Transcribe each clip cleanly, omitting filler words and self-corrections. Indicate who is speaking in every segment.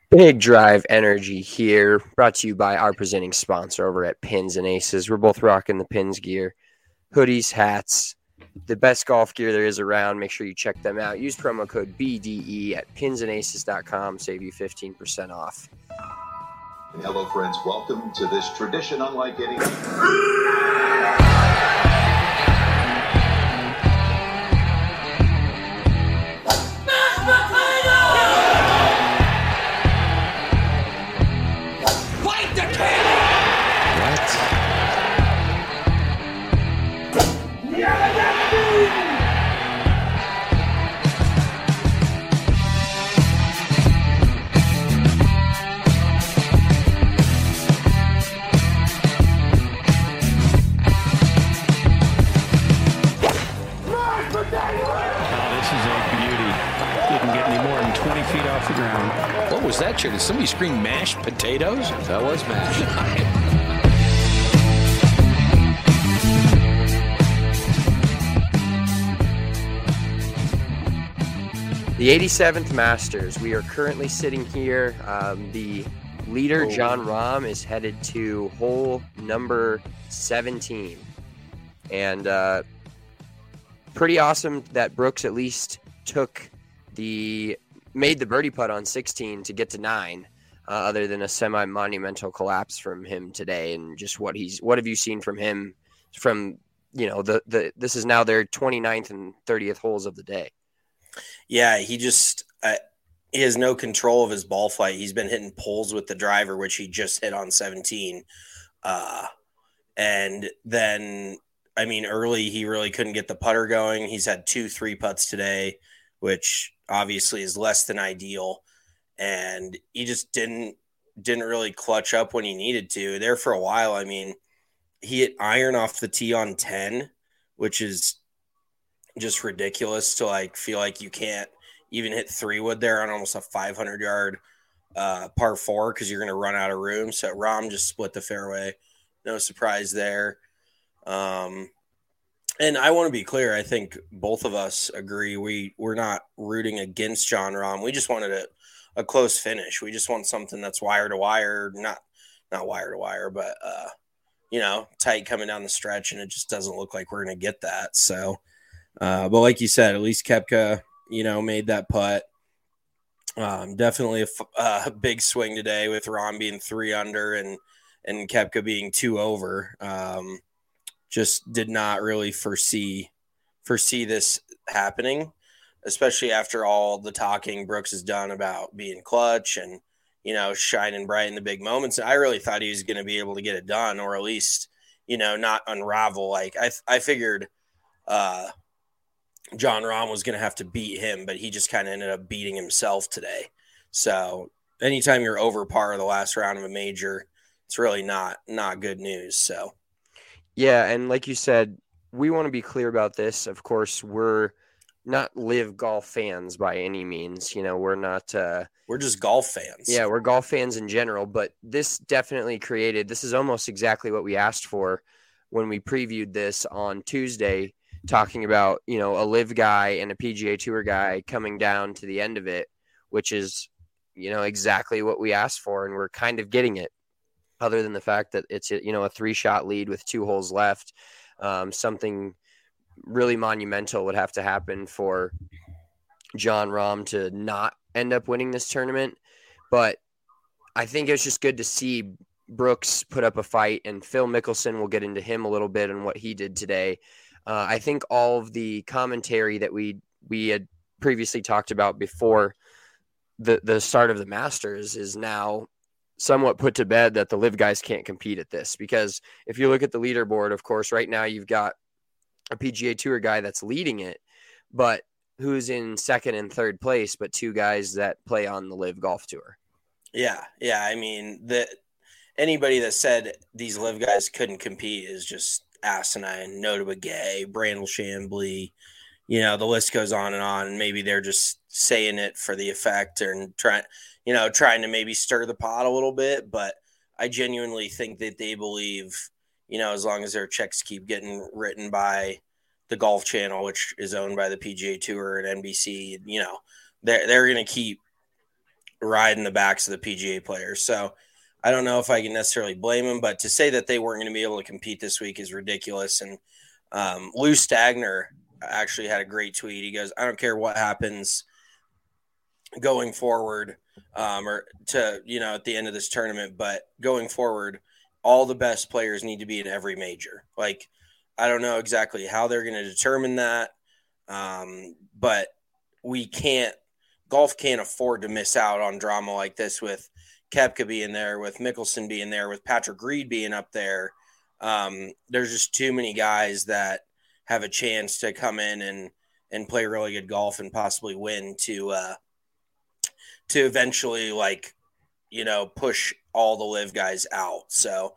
Speaker 1: Big Drive Energy here, brought to you by our presenting sponsor over at Pins and Aces. We're both rocking the Pins gear, hoodies, hats, the best golf gear there is around. Make sure you check them out. Use promo code BDE at pinsandaces.com, save you 15% off.
Speaker 2: Hello, friends. Welcome to this tradition unlike any.
Speaker 3: What was that, Chair? Did somebody scream mashed potatoes?
Speaker 4: That was mashed.
Speaker 1: The 87th Masters. We are currently sitting here. The leader, Jon Rahm, is headed to hole number 17. And pretty awesome that Brooks at least made the birdie putt on 16 to get to 9, other than a semi-monumental collapse from him today. And just what have you seen from him from, this is now their 29th and 30th holes of the day.
Speaker 5: Yeah, he just he has no control of his ball flight. He's been hitting poles with the driver, which he just hit on 17. And then, early he really couldn't get the putter going. He's had 2 3-putts today, which obviously is less than ideal. And he just didn't really clutch up when he needed to. There for a while, he hit iron off the tee on 10, which is just ridiculous to feel like you can't even hit 3-wood there on almost a 500-yard par 4 because you're going to run out of room. So Rahm just split the fairway. No surprise there. And I want to be clear. I think both of us agree. We're not rooting against Jon Rahm. We just wanted a close finish. We just want something that's wire to wire, not wire to wire, but tight coming down the stretch. And it just doesn't look like we're going to get that. So, but like you said, at least Koepka, made that putt. Definitely a big swing today with Rahm being 3 under and Koepka being 2 over. Just did not really foresee this happening, especially after all the talking Brooks has done about being clutch and, shining bright in the big moments. I really thought he was going to be able to get it done, or at least, not unravel. I figured Jon Rahm was going to have to beat him, but he just kind of ended up beating himself today. So anytime you're over par the last round of a major, it's really not good news. So.
Speaker 1: Yeah, and like you said, we want to be clear about this. Of course, we're not live golf fans by any means. We're not.
Speaker 5: We're just golf fans.
Speaker 1: Yeah, we're golf fans in general. But this definitely this is almost exactly what we asked for when we previewed this on Tuesday, talking about, a live guy and a PGA Tour guy coming down to the end of it, which is, exactly what we asked for. And we're kind of getting it. Other than the fact that it's, a 3-shot lead with 2 holes left. Something really monumental would have to happen for Jon Rahm to not end up winning this tournament. But I think it's just good to see Brooks put up a fight, and Phil Mickelson, we'll get into him a little bit and what he did today. I think all of the commentary that we had previously talked about before the start of the Masters is now somewhat put to bed, that the live guys can't compete at this. Because if you look at the leaderboard, of course, right now you've got a PGA Tour guy that's leading it, but who's in second and third place, but 2 guys that play on the live golf tour.
Speaker 5: Yeah. Anybody that said these live guys couldn't compete is just asinine. Notah Begay, Brandel Chamblee, the list goes on and on. And maybe they're just saying it for the effect and trying to maybe stir the pot a little bit. But I genuinely think that they believe, as long as their checks keep getting written by the Golf Channel, which is owned by the PGA Tour and NBC, they're going to keep riding the backs of the PGA players. So I don't know if I can necessarily blame them, but to say that they weren't going to be able to compete this week is ridiculous. And Lou Stagner actually had a great tweet. He goes, I don't care what happens going forward or to, at the end of this tournament, but going forward, all the best players need to be in every major. Like, I don't know exactly how they're going to determine that. But golf can't afford to miss out on drama like this with Koepka being there, with Mickelson being there, with Patrick Reed being up there. There's just too many guys that have a chance to come in and play really good golf and possibly win to eventually push all the live guys out. So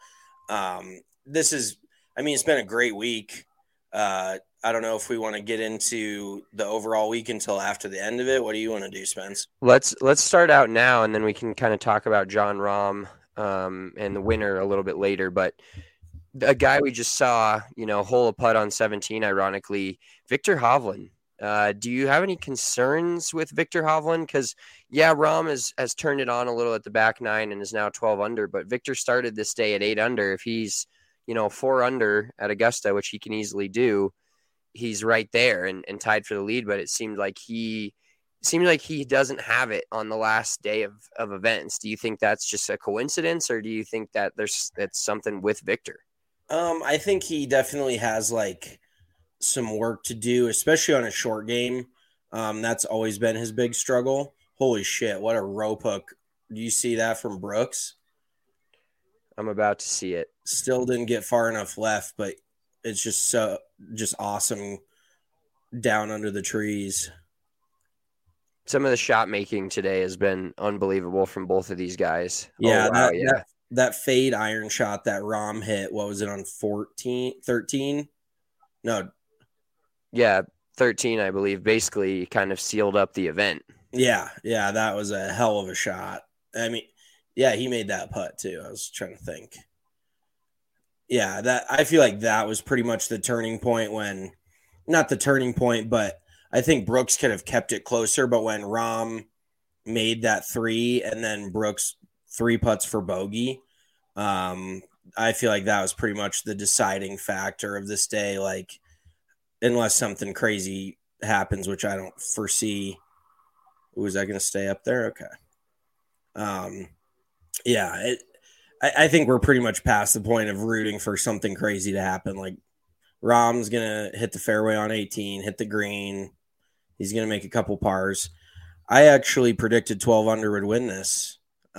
Speaker 5: it's been a great week. I don't know if we want to get into the overall week until after the end of it. What do you want to do, Spence?
Speaker 1: Let's start out now, and then we can kind of talk about Jon Rahm and the winner a little bit later. But a guy we just saw, hole a putt on 17, ironically, Viktor Hovland. Do you have any concerns with Viktor Hovland? Because, Rahm has turned it on a little at the back nine and is now 12 under, but Viktor started this day at 8 under. If he's, 4 under at Augusta, which he can easily do, he's right there and tied for the lead. But it seemed like he doesn't have it on the last day of events. Do you think that's just a coincidence, or do you think that that's something with Viktor?
Speaker 5: I think he definitely has some work to do, especially on a short game. That's always been his big struggle. Holy shit, what a rope hook. Do you see that from Brooks?
Speaker 1: I'm about to see it.
Speaker 5: Still didn't get far enough left, but it's just awesome down under the trees.
Speaker 1: Some of the shot making today has been unbelievable from both of these guys.
Speaker 5: Yeah, oh, wow, that fade iron shot that Rahm hit, what was it, on 13? No.
Speaker 1: Yeah, 13, I believe, basically kind of sealed up the event.
Speaker 5: Yeah, that was a hell of a shot. I mean, yeah, he made that putt too. I was trying to think. Yeah, I feel like that was pretty much the turning point not the turning point, but I think Brooks could have kept it closer. But when Rahm made that 3 and then Brooks 3 putts for bogey, I feel like that was pretty much the deciding factor of this day. Like, unless something crazy happens, which I don't foresee. Was that going to stay up there? Okay. I think we're pretty much past the point of rooting for something crazy to happen. Like, Rahm's going to hit the fairway on 18, hit the green. He's going to make a couple pars. I actually predicted 12 under would win this.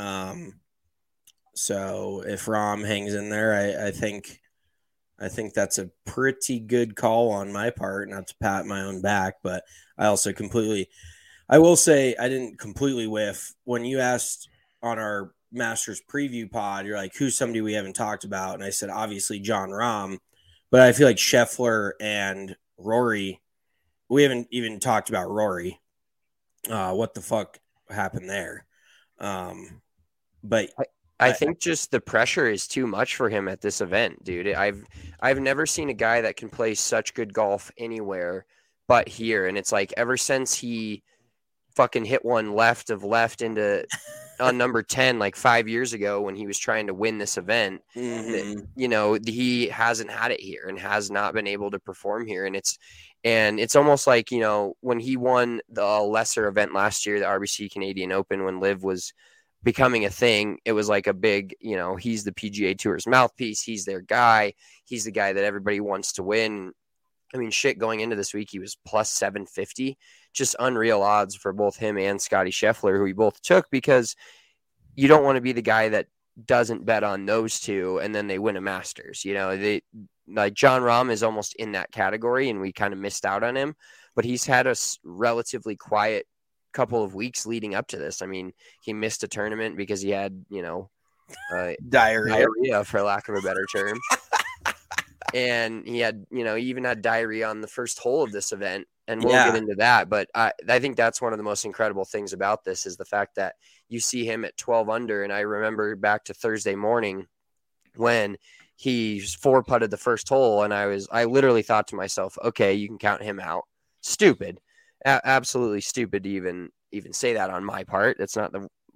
Speaker 5: So if Rahm hangs in there, I think that's a pretty good call on my part, not to pat my own back, but I will say I didn't completely whiff. When you asked on our Masters preview pod, you're like, who's somebody we haven't talked about? And I said, obviously Jon Rahm, but I feel like Scheffler and Rory, we haven't even talked about Rory. What the fuck happened there? But
Speaker 1: I think just the pressure is too much for him at this event, dude. I've never seen a guy that can play such good golf anywhere but here. And it's like ever since he fucking hit one left into on number 10 like 5 years ago when he was trying to win this event, he hasn't had it here and has not been able to perform here. And it's almost like, when he won the lesser event last year, the RBC Canadian Open, when Liv was becoming a thing, it was like a big, he's the PGA Tour's mouthpiece. He's their guy. He's the guy that everybody wants to win. I mean, shit, going into this week, he was plus 750, just unreal odds for both him and Scotty Scheffler, who we both took, because you don't want to be the guy that doesn't bet on those two and then they win a Masters. Like Jon Rahm is almost in that category, and we kind of missed out on him, but he's had a relatively quiet couple of weeks leading up to this. I mean, he missed a tournament because he had, diarrhea, for lack of a better term. And he had, he even had diarrhea on the first hole of this event. And we'll get into that. But I think that's one of the most incredible things about this is the fact that you see him at 12 under. And I remember back to Thursday morning when he 4-putted the first hole. And I literally thought to myself, okay, you can count him out. Stupid. Absolutely stupid to even say that on my part. That's not the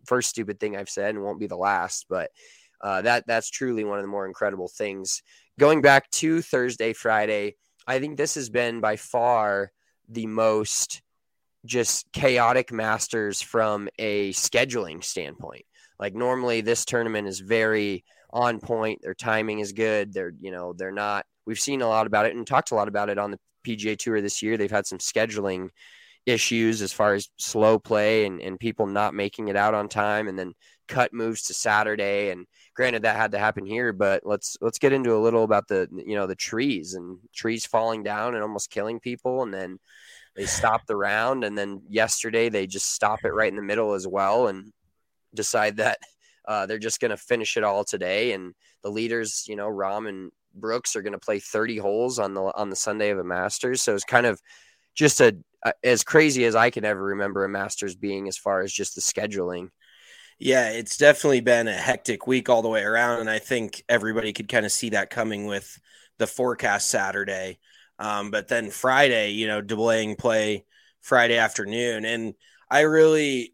Speaker 1: first stupid thing I've said and won't be the last, but that's truly one of the more incredible things. Going back to Thursday, Friday, I think this has been by far the most just chaotic Masters from a scheduling standpoint. Like normally this tournament is very on point. Their timing is good. They're not, we've seen a lot about it and talked a lot about it on the PGA Tour this year. They've had some scheduling issues as far as slow play and people not making it out on time, and then cut moves to Saturday. And granted that had to happen here, but let's get into a little about the trees falling down and almost killing people. And then they stop the round. And then yesterday they just stop it right in the middle as well and decide that they're just going to finish it all today. And the leaders, Rahm and Brooks, are going to play 30 holes on the Sunday of a Masters. So it's kind of just as crazy as I can ever remember a Masters being as far as just the scheduling.
Speaker 5: Yeah, it's definitely been a hectic week all the way around, and I think everybody could kind of see that coming with the forecast Saturday. But then Friday, delaying play Friday afternoon. And I really,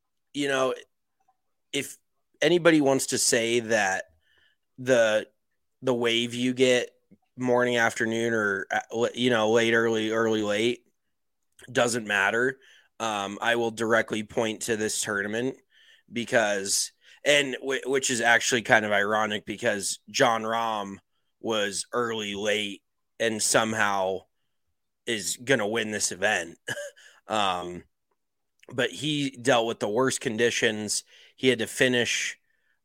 Speaker 5: if anybody wants to say that the wave you get morning, afternoon, or, late, early, late doesn't matter, I will directly point to this tournament because, and which is actually kind of ironic because Jon Rahm was early, late, and somehow is going to win this event. But he dealt with the worst conditions. He had to finish,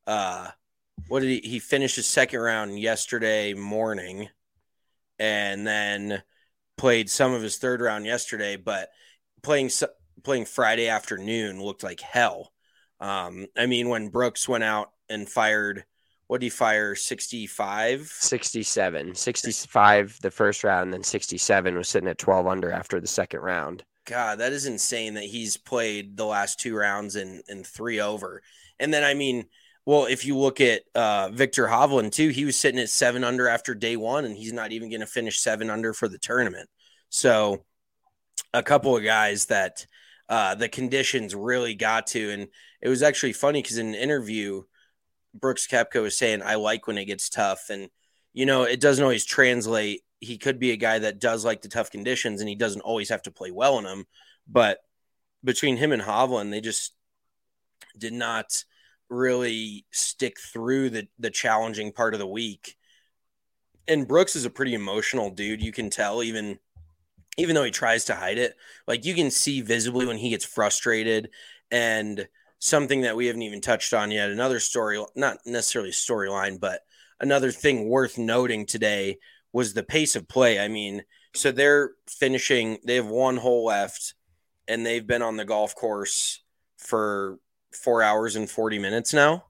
Speaker 5: he finished his second round yesterday morning and then played some of his third round yesterday, but playing Friday afternoon looked like hell. When Brooks went out and fired, what did he fire? 65?
Speaker 1: 67. 65 the first round, and then 67 was sitting at 12 under after the second round.
Speaker 5: God, that is insane that he's played the last two rounds in 3 over. And then, if you look at Victor Hovland too, he was sitting at 7 under after day one, and he's not even going to finish 7 under for the tournament. So a couple of guys that the conditions really got to. And it was actually funny because in an interview, Brooks Koepka was saying, I like when it gets tough. And, it doesn't always translate. He could be a guy that does like the tough conditions and he doesn't always have to play well in them. But between him and Hovland, they just did not really stick through the challenging part of the week. And Brooks is a pretty emotional dude. You can tell even though he tries to hide it, like you can see visibly when he gets frustrated. And something that we haven't even touched on yet, another story, not necessarily storyline, but another thing worth noting today was the pace of play. So they're finishing, they have 1 hole left and they've been on the golf course for 4 hours and 40 minutes now.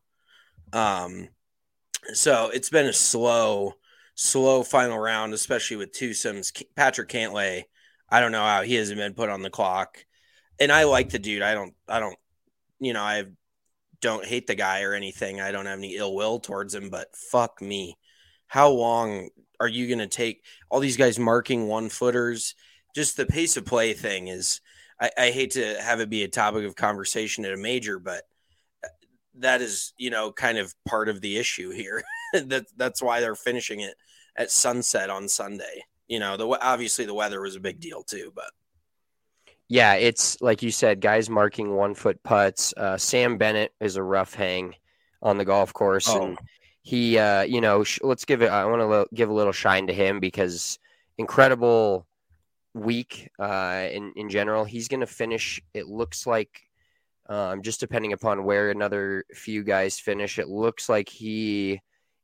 Speaker 5: So it's been a slow final round, especially with twosomes. Patrick Cantlay, I don't know how he hasn't been put on the clock. And I like the dude. I don't hate the guy or anything. I don't have any ill will towards him, but fuck me. How long are you going to take all these guys marking 1-footers? Just the pace of play thing is, I hate to have it be a topic of conversation at a major, but that is, kind of part of the issue here. That's why they're finishing it at sunset on Sunday. Obviously the weather was a big deal too, but.
Speaker 1: Yeah, it's like you said, guys marking 1-foot putts. Sam Bennett is a rough hang on the golf course. Oh. And he, let's give it, I want to give a little shine to him because incredible week in general. He's going to finish, it looks like, just depending upon where another few guys finish, it looks like he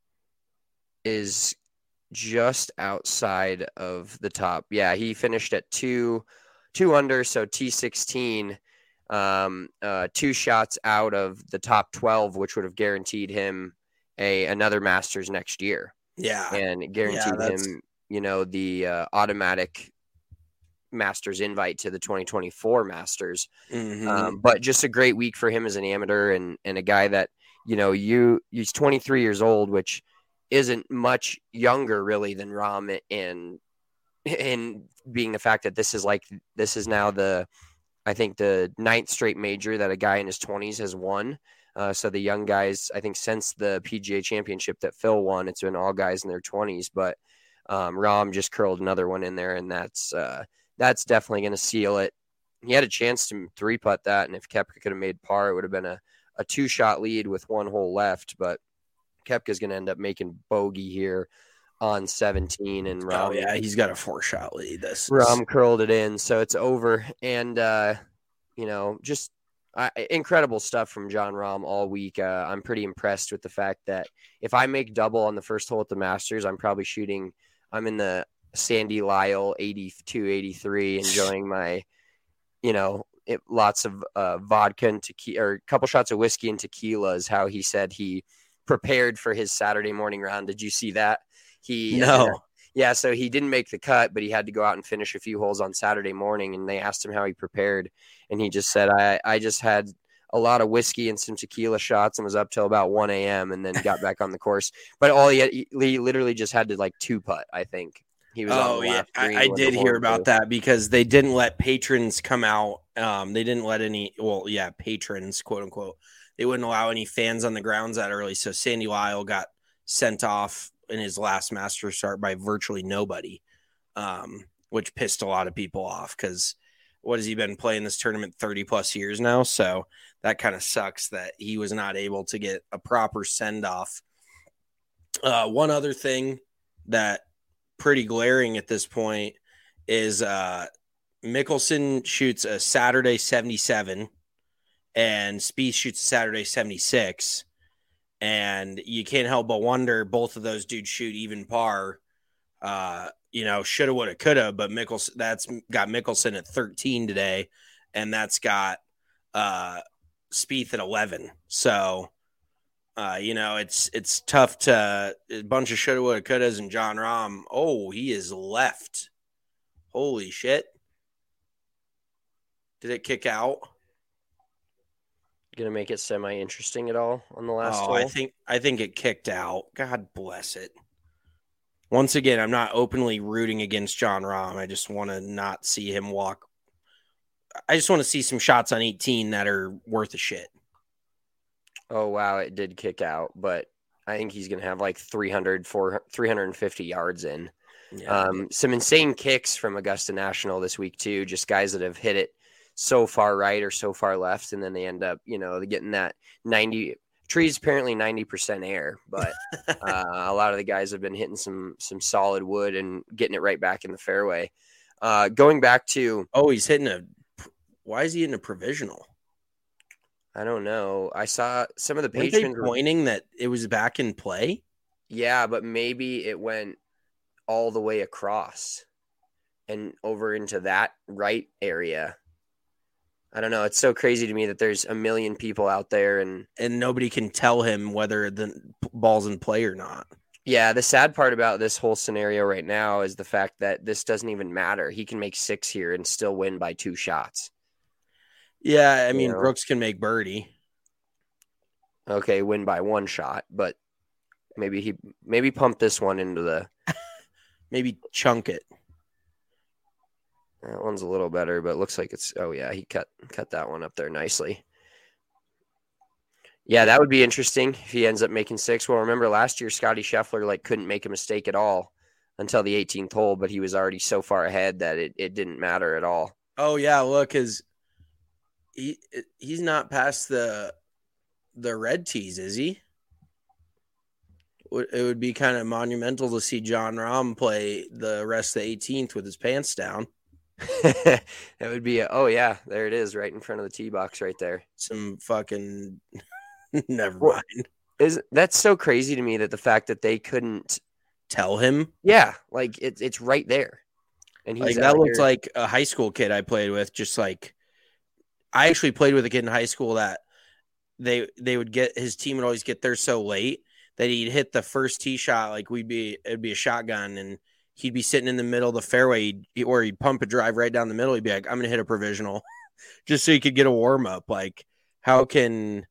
Speaker 1: is just outside of the top. Yeah, he finished at 2 under, so T16, 2 shots out of the top 12, which would have guaranteed him another Masters next year.
Speaker 5: Yeah.
Speaker 1: And guaranteed him, the automatic Masters invite to the 2024 Masters.
Speaker 5: Mm-hmm.
Speaker 1: But just a great week for him as an amateur and a guy that, he's 23 years old, which isn't much younger really than Rahm, and being the fact that this is now the I think the 9th straight major that a guy in his 20s has won. So the young guys, I think since the PGA Championship that Phil won, it's been all guys in their 20s. But Rahm just curled another one in there, and that's definitely going to seal it. He had a chance to 3-putt that, and if Koepka could have made par, it would have been a 2-shot lead with 1 hole left. But Koepka's going to end up making bogey here on 17, and Rahm,
Speaker 5: he's got a 4-shot lead.
Speaker 1: Rahm curled it in, so it's over. And just incredible stuff from Jon Rahm all week. I'm pretty impressed with the fact that if I make double on the first hole at the Masters, I'm in the Sandy Lyle 82, 83, enjoying my, lots of vodka and tequila, or a couple shots of whiskey and tequila is how he said he prepared for his Saturday morning round. Did you see that?
Speaker 5: No.
Speaker 1: Yeah, so he didn't make the cut, but he had to go out and finish a few holes on Saturday morning, and they asked him how he prepared, and he just said, I just had a lot of whiskey and some tequila shots and was up till about 1 a.m. and then got back on the course. But he literally just had to 2-putt, I think. He was on the left green.
Speaker 5: I did hear about that because they didn't let patrons come out. They didn't let patrons, quote unquote. They wouldn't allow any fans on the grounds that early, so Sandy Lyle got sent off in his last Masters start by virtually nobody, which pissed a lot of people off because what has he been playing this tournament 30 plus years now? So that kind of sucks that he was not able to get a proper send off. One other thing that pretty glaring at this point is Mickelson shoots a Saturday 77 and Spieth shoots a Saturday 76. And you can't help but wonder, both of those dudes shoot even par. Shoulda, woulda, coulda, but that's got Mickelson at 13 today, and that's got Spieth at 11. So, it's tough to a bunch of shoulda, woulda, couldas, and Jon Rahm. Oh, he is left. Holy shit! Did it kick out?
Speaker 1: Gonna make it semi-interesting at all on the last hole?
Speaker 5: I think it kicked out. God bless it. Once again, I'm not openly rooting against Jon Rahm. I just want to not see him walk. I just want to see some shots on 18 that are worth a shit.
Speaker 1: Oh, wow, it did kick out, but I think he's going to have 350 yards in. Yeah. Some insane kicks from Augusta National this week, too, just guys that have hit it so far right or so far left, and then they end up, getting that 90 trees, apparently 90% air, but a lot of the guys have been hitting some solid wood and getting it right back in the fairway. Going back to
Speaker 5: he's hitting why is he hitting a provisional?
Speaker 1: I don't know. I saw some of the patrons
Speaker 5: pointing that it was back in play.
Speaker 1: Yeah, but maybe it went all the way across and over into that right area. I don't know. It's so crazy to me that there's a million people out there and
Speaker 5: nobody can tell him whether the ball's in play or not.
Speaker 1: Yeah, the sad part about this whole scenario right now is the fact that this doesn't even matter. He can make 6 here and still win by 2 shots.
Speaker 5: Yeah, I mean, Brooks can make birdie.
Speaker 1: Okay, win by 1 shot, but maybe pump this one into the
Speaker 5: maybe chunk it.
Speaker 1: That one's a little better, but it looks like it's. Oh yeah, he cut that one up there nicely. Yeah, that would be interesting if he ends up making 6. Well, remember last year Scotty Scheffler couldn't make a mistake at all until the 18th hole, but he was already so far ahead that it didn't matter at all.
Speaker 5: Oh yeah, look, he's not past the red tees, is he? It would be kind of monumental to see Jon Rahm play the rest of the 18th with his pants down.
Speaker 1: That would be there it is, right in front of the tee box right there.
Speaker 5: Some fucking never mind.
Speaker 1: That's so crazy to me that the fact that they couldn't
Speaker 5: tell him.
Speaker 1: Yeah, it's right there. And he's
Speaker 5: that looks like a high school kid I played with. Just I actually played with a kid in high school that they would get, his team would always get there so late that he'd hit the first tee shot. It'd be a shotgun and he'd be sitting in the middle of the fairway or he'd pump a drive right down the middle. He'd be like, I'm going to hit a provisional just so he could get a warm up. How can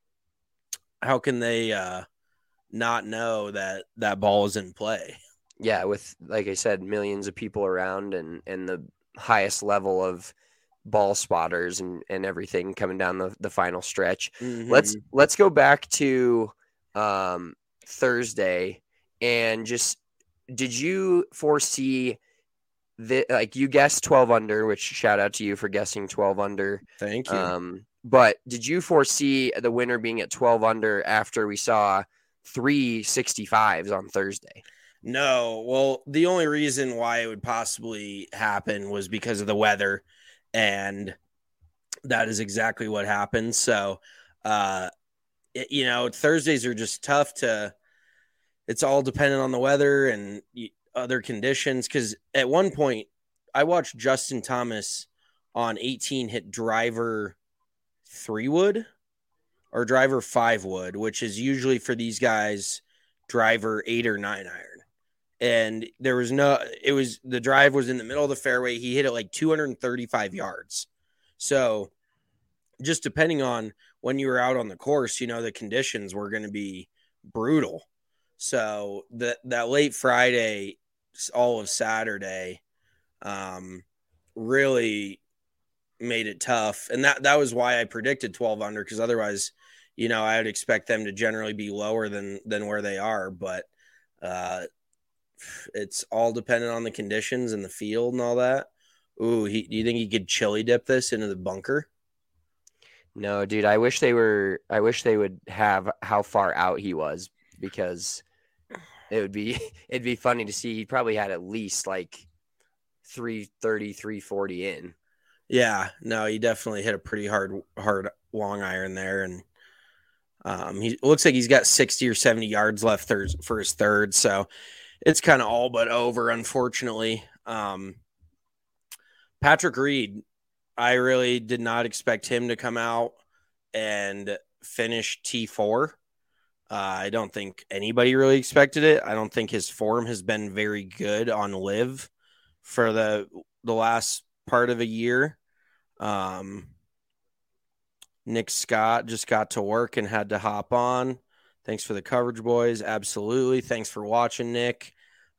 Speaker 5: they not know that ball is in play?
Speaker 1: Yeah. With, like I said, millions of people around and the highest level of ball spotters and everything coming down the final stretch.
Speaker 5: Mm-hmm.
Speaker 1: Let's go back to Thursday, and just, did you foresee like, you guessed 12 under, which shout out to you for guessing 12 under.
Speaker 5: Thank you.
Speaker 1: But did you foresee the winner being at 12 under after we saw 3 65s on Thursday?
Speaker 5: No. Well, the only reason why it would possibly happen was because of the weather, and that is exactly what happened. So, Thursdays are just tough it's all dependent on the weather and other conditions. Because at one point, I watched Justin Thomas on 18 hit driver 3-wood or driver 5-wood, which is usually for these guys driver 8 or 9 iron. And the drive was in the middle of the fairway. He hit it like 235 yards. So just depending on when you were out on the course, the conditions were going to be brutal. So that late Friday, all of Saturday, really made it tough. And that was why I predicted 12 under, because otherwise, I would expect them to generally be lower than where they are. But it's all dependent on the conditions and the field and all that. Ooh, do you think he could chili dip this into the bunker?
Speaker 1: No, dude. I wish they would have how far out he was, because it'd be funny to see. He probably had at least like 330, 340 in.
Speaker 5: Yeah, no, he definitely hit a pretty hard long iron there, and he looks like he's got 60 or 70 yards left for his third, so it's kind of all but over, unfortunately. Patrick Reed, I really did not expect him to come out and finish T4. I don't think anybody really expected it. I don't think his form has been very good on LIV for the last part of a year. Nick Scott just got to work and had to hop on. Thanks for the coverage, boys. Absolutely. Thanks for watching, Nick.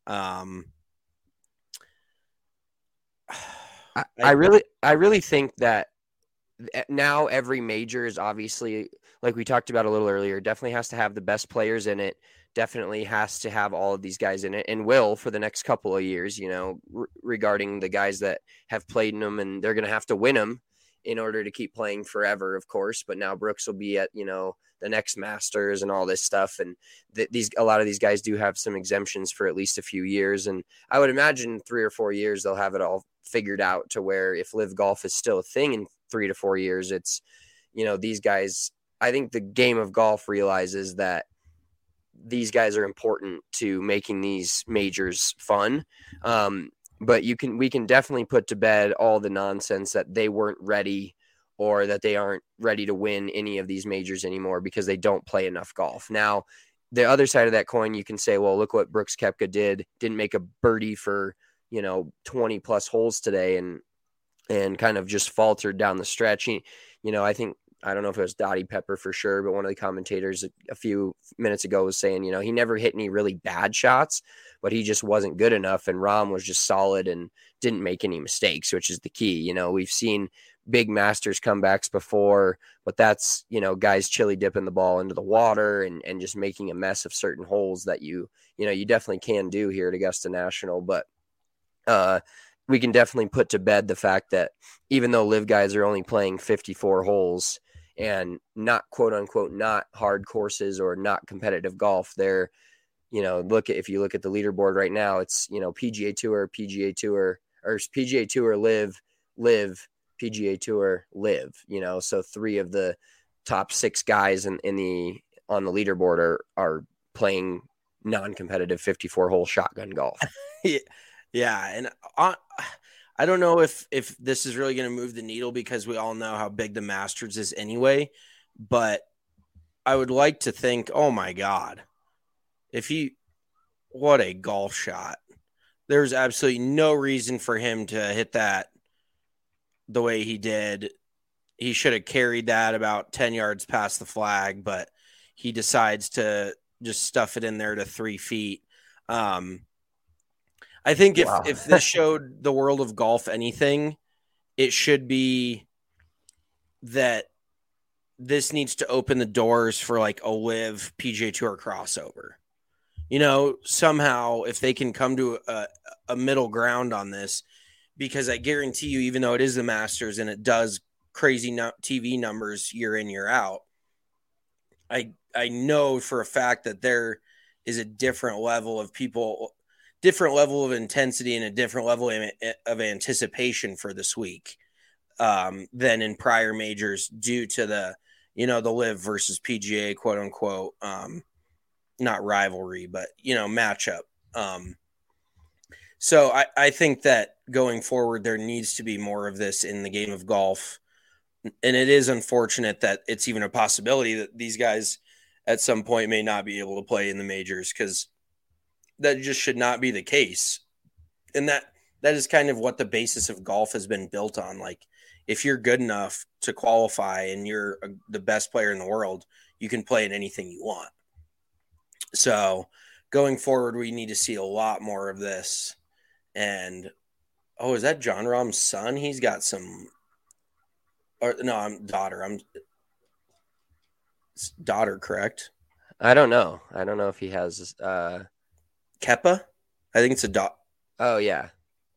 Speaker 1: I really think that now every major is obviously, like we talked about a little earlier, definitely has to have the best players in it. Definitely has to have all of these guys in it, and will for the next couple of years, regarding the guys that have played in them, and they're going to have to win them in order to keep playing forever, of course. But now Brooks will be at, the next Masters and all this stuff. And a lot of these guys do have some exemptions for at least a few years. And I would imagine 3 or 4 years, they'll have it all figured out to where if LIV Golf is still a thing in 3 to 4 years, it's, these guys, I think the game of golf realizes that these guys are important to making these majors fun. But we can definitely put to bed all the nonsense that they weren't ready, or that they aren't ready to win any of these majors anymore because they don't play enough golf. Now, the other side of that coin, you can say, well, look what Brooks Koepka didn't make a birdie for, 20 plus holes today, and kind of just faltered down the stretch. I don't know if it was Dottie Pepper for sure, but one of the commentators a few minutes ago was saying, he never hit any really bad shots, but he just wasn't good enough. And Rahm was just solid and didn't make any mistakes, which is the key. We've seen big Masters comebacks before, but that's, guys chili dipping the ball into the water and just making a mess of certain holes that you definitely can do here at Augusta National. But we can definitely put to bed the fact that even though LIV guys are only playing 54 holes and not, quote unquote, not hard courses or not competitive golf, they're, if you look at the leaderboard right now, it's, PGA Tour, LIV, PGA Tour, LIV, so 3 of the top 6 guys on the leaderboard are playing non-competitive 54-hole shotgun golf.
Speaker 5: Yeah. And I don't know if this is really going to move the needle, because we all know how big the Masters is anyway, but I would like to think, oh my God, what a golf shot. There's absolutely no reason for him to hit that the way he did. He should have carried that about 10 yards past the flag, but he decides to just stuff it in there to 3 feet. I think if this showed the world of golf anything, it should be that this needs to open the doors for like a live PGA Tour crossover. Somehow if they can come to a middle ground on this, because I guarantee you, even though it is the Masters and it does crazy TV numbers year in, year out, I know for a fact that there is a different level of people, different level of intensity, and a different level of anticipation for this week than in prior majors due to the Live versus PGA, quote unquote, not rivalry, but, matchup. So I think that going forward, there needs to be more of this in the game of golf. And it is unfortunate that it's even a possibility that these guys at some point may not be able to play in the majors, because that just should not be the case. And that is kind of what the basis of golf has been built on. Like, if you're good enough to qualify and you're the best player in the world, you can play in anything you want. So going forward, we need to see a lot more of this. And, is that Jon Rahm's son? He's got some, I'm daughter, correct?
Speaker 1: I don't know. I don't know if he has
Speaker 5: Kepa? I think it's a daughter.
Speaker 1: Oh, yeah.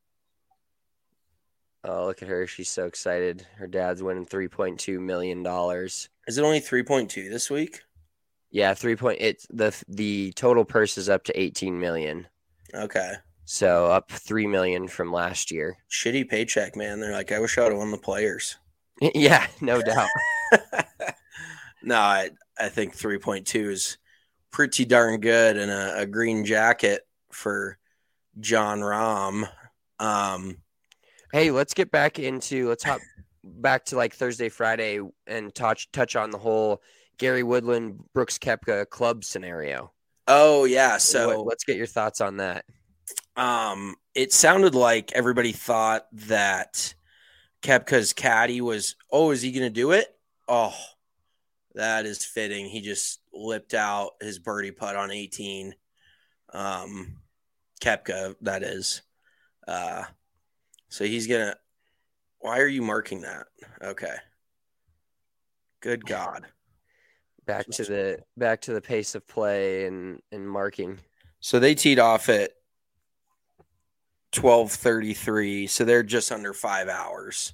Speaker 1: Oh, look at her. She's so excited. Her dad's winning $3.2 million.
Speaker 5: Is it only 3.2 this week?
Speaker 1: Yeah, it's the total purse is up to 18 million.
Speaker 5: Okay.
Speaker 1: So up 3 million from last year.
Speaker 5: Shitty paycheck, man. They're like, I wish I would have won the Players.
Speaker 1: Yeah, no doubt.
Speaker 5: No, I think 3.2 is pretty darn good, and a green jacket for Jon Rahm.
Speaker 1: Hey, let's hop back to like Thursday, Friday, and touch on the whole Gary Woodland, Brooks Koepka club scenario.
Speaker 5: Oh yeah, so
Speaker 1: let's get your thoughts on that.
Speaker 5: It sounded like everybody thought that Koepka's caddy was, is he going to do it? Oh, that is fitting. He just lipped out his birdie putt on 18. Koepka, that is. So he's going to – why are you marking that? Okay. Good God.
Speaker 1: Back to the pace of play and marking.
Speaker 5: So they teed off at 12:33, so they're just under 5 hours.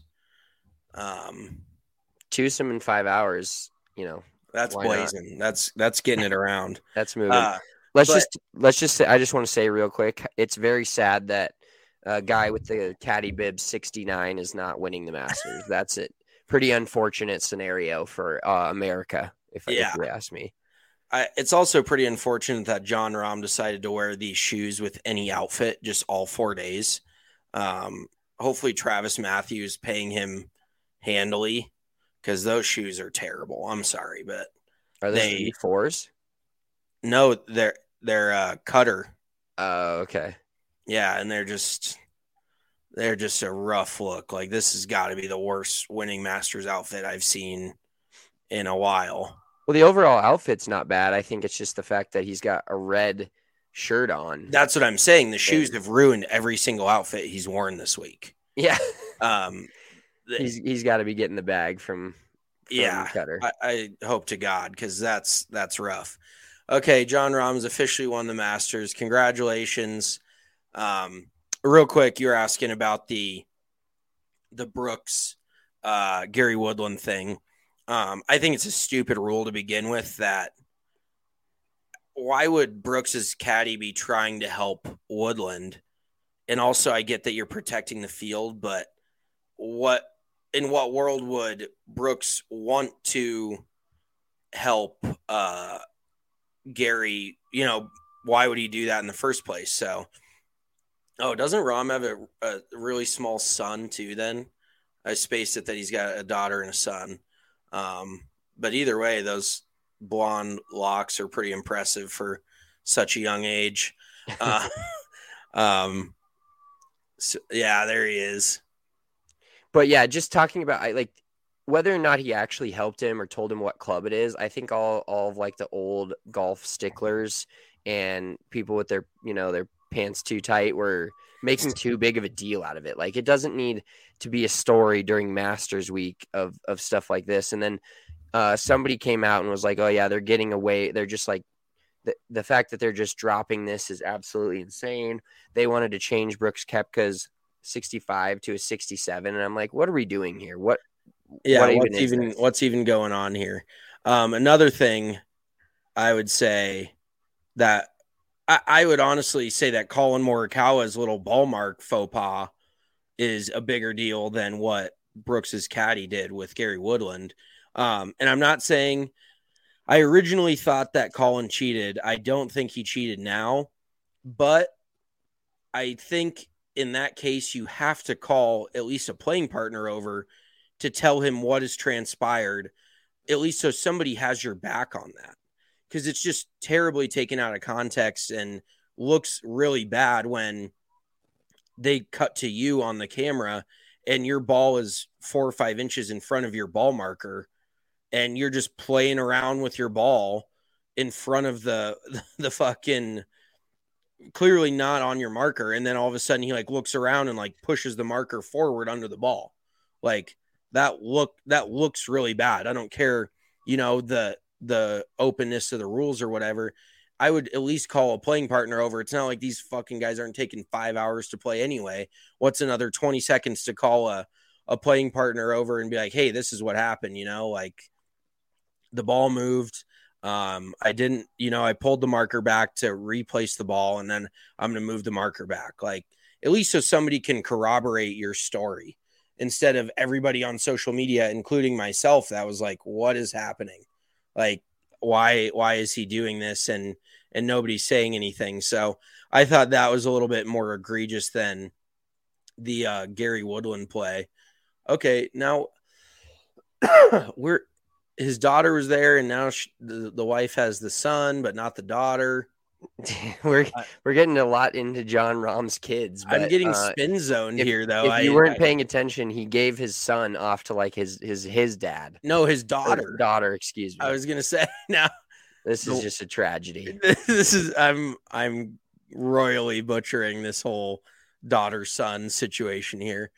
Speaker 1: Twosome in 5 hours,
Speaker 5: that's blazing. That's getting it around.
Speaker 1: That's moving. Let's just say, I just want to say real quick, it's very sad that a guy with the caddy bib 69 is not winning the Masters. That's it. Pretty unfortunate scenario for America, if you ask me.
Speaker 5: It's also pretty unfortunate that Jon Rahm decided to wear these shoes with any outfit just all 4 days. Hopefully Travis Matthews paying him handily, because those shoes are terrible. I'm sorry, but
Speaker 1: are they fours?
Speaker 5: No, they're Cutter.
Speaker 1: Oh, okay.
Speaker 5: Yeah, and they're just a rough look. Like, this has got to be the worst winning Masters outfit I've seen in a while.
Speaker 1: Well, the overall outfit's not bad. I think it's just the fact that he's got a red shirt on.
Speaker 5: That's what I'm saying. The shoes have ruined every single outfit he's worn this week.
Speaker 1: Yeah. He's got to be getting the bag from Cutter.
Speaker 5: I hope to God, because that's rough. Okay, Jon Rahm's officially won the Masters. Congratulations. Real quick, you're asking about the Brooks Gary Woodland thing. I think it's a stupid rule to begin with. That why would Brooks's caddy be trying to help Woodland? And also, I get that you're protecting the field, but in what world would Brooks want to help Gary? Why would he do that in the first place? So, doesn't Rahm have a really small son too? Then I spaced it that he's got a daughter and a son. But either way, those blonde locks are pretty impressive for such a young age. So, yeah, there he is.
Speaker 1: But yeah, just talking about whether or not he actually helped him or told him what club it is. I think all of like the old golf sticklers and people with their pants too tight were making too big of a deal out of it. Like, it doesn't need to be a story during Masters week of stuff like this. And then somebody came out and was like, oh yeah, they're getting away. They're just like, the fact that they're just dropping this is absolutely insane. They wanted to change Brooks Koepka's 65 to a 67. And I'm like, what are we doing here? What's even
Speaker 5: going on here? Another thing I would say that I would honestly say that Colin Morikawa's little ball mark faux pas is a bigger deal than what Brooks's caddy did with Gary Woodland. And I'm not saying I originally thought that Colin cheated. I don't think he cheated now, but I think in that case, you have to call at least a playing partner over to tell him what has transpired, at least so somebody has your back on that. Because it's just terribly taken out of context and looks really bad when they cut to you on the camera and your ball is 4 or 5 inches in front of your ball marker and you're just playing around with your ball in front of the fucking clearly not on your marker. And then all of a sudden he like looks around and like pushes the marker forward under the ball. Like that looks really bad. I don't care, the openness of the rules or whatever. I would at least call a playing partner over. It's not like these fucking guys aren't taking 5 hours to play anyway. What's another 20 seconds to call a playing partner over and be like, hey, this is what happened. Like the ball moved. I pulled the marker back to replace the ball and then I'm going to move the marker back. Like at least so somebody can corroborate your story instead of everybody on social media, including myself. That was like, what is happening? Like, why is he doing this? And nobody's saying anything. So I thought that was a little bit more egregious than the Gary Woodland play. Okay. Now his daughter was there and now the wife has the son, but not the daughter.
Speaker 1: We're getting a lot into Jon Rahm's kids. But,
Speaker 5: I'm getting spin zoned here, though.
Speaker 1: If you weren't paying attention, he gave his son off to like his dad.
Speaker 5: No, his daughter.
Speaker 1: Daughter, excuse me.
Speaker 5: I was gonna say now.
Speaker 1: This is just a tragedy.
Speaker 5: I'm royally butchering this whole daughter-son situation here.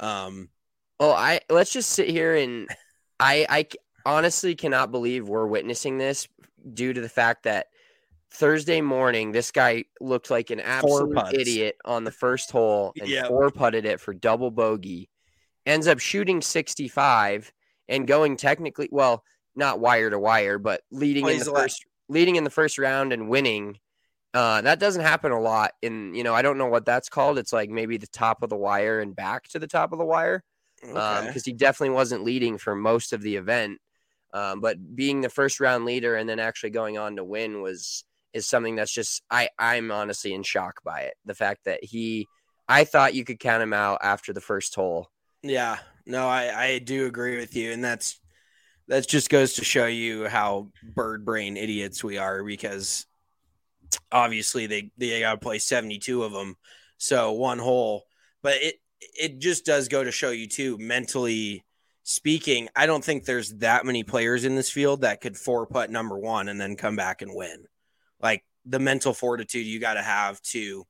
Speaker 1: Let's just sit here and I honestly cannot believe we're witnessing this due to the fact that Thursday morning, this guy looked like an absolute idiot on the first hole and four putted it for double bogey. Ends up shooting 65 and going technically, well, not wire to wire, but leading in the first round and winning. That doesn't happen a lot. I don't know what that's called. It's like maybe the top of the wire and back to the top of the wire. Because he definitely wasn't leading for most of the event. But being the first round leader and then actually going on to win is something that's just I'm honestly in shock by it. The fact that I thought you could count him out after the first hole.
Speaker 5: Yeah, no, I do agree with you. And that just goes to show you how bird brain idiots we are, because obviously they got to play 72 of them. So one hole, but it just does go to show you too, mentally speaking, I don't think there's that many players in this field that could 4-putt number one and then come back and win. Like the mental fortitude you got to have to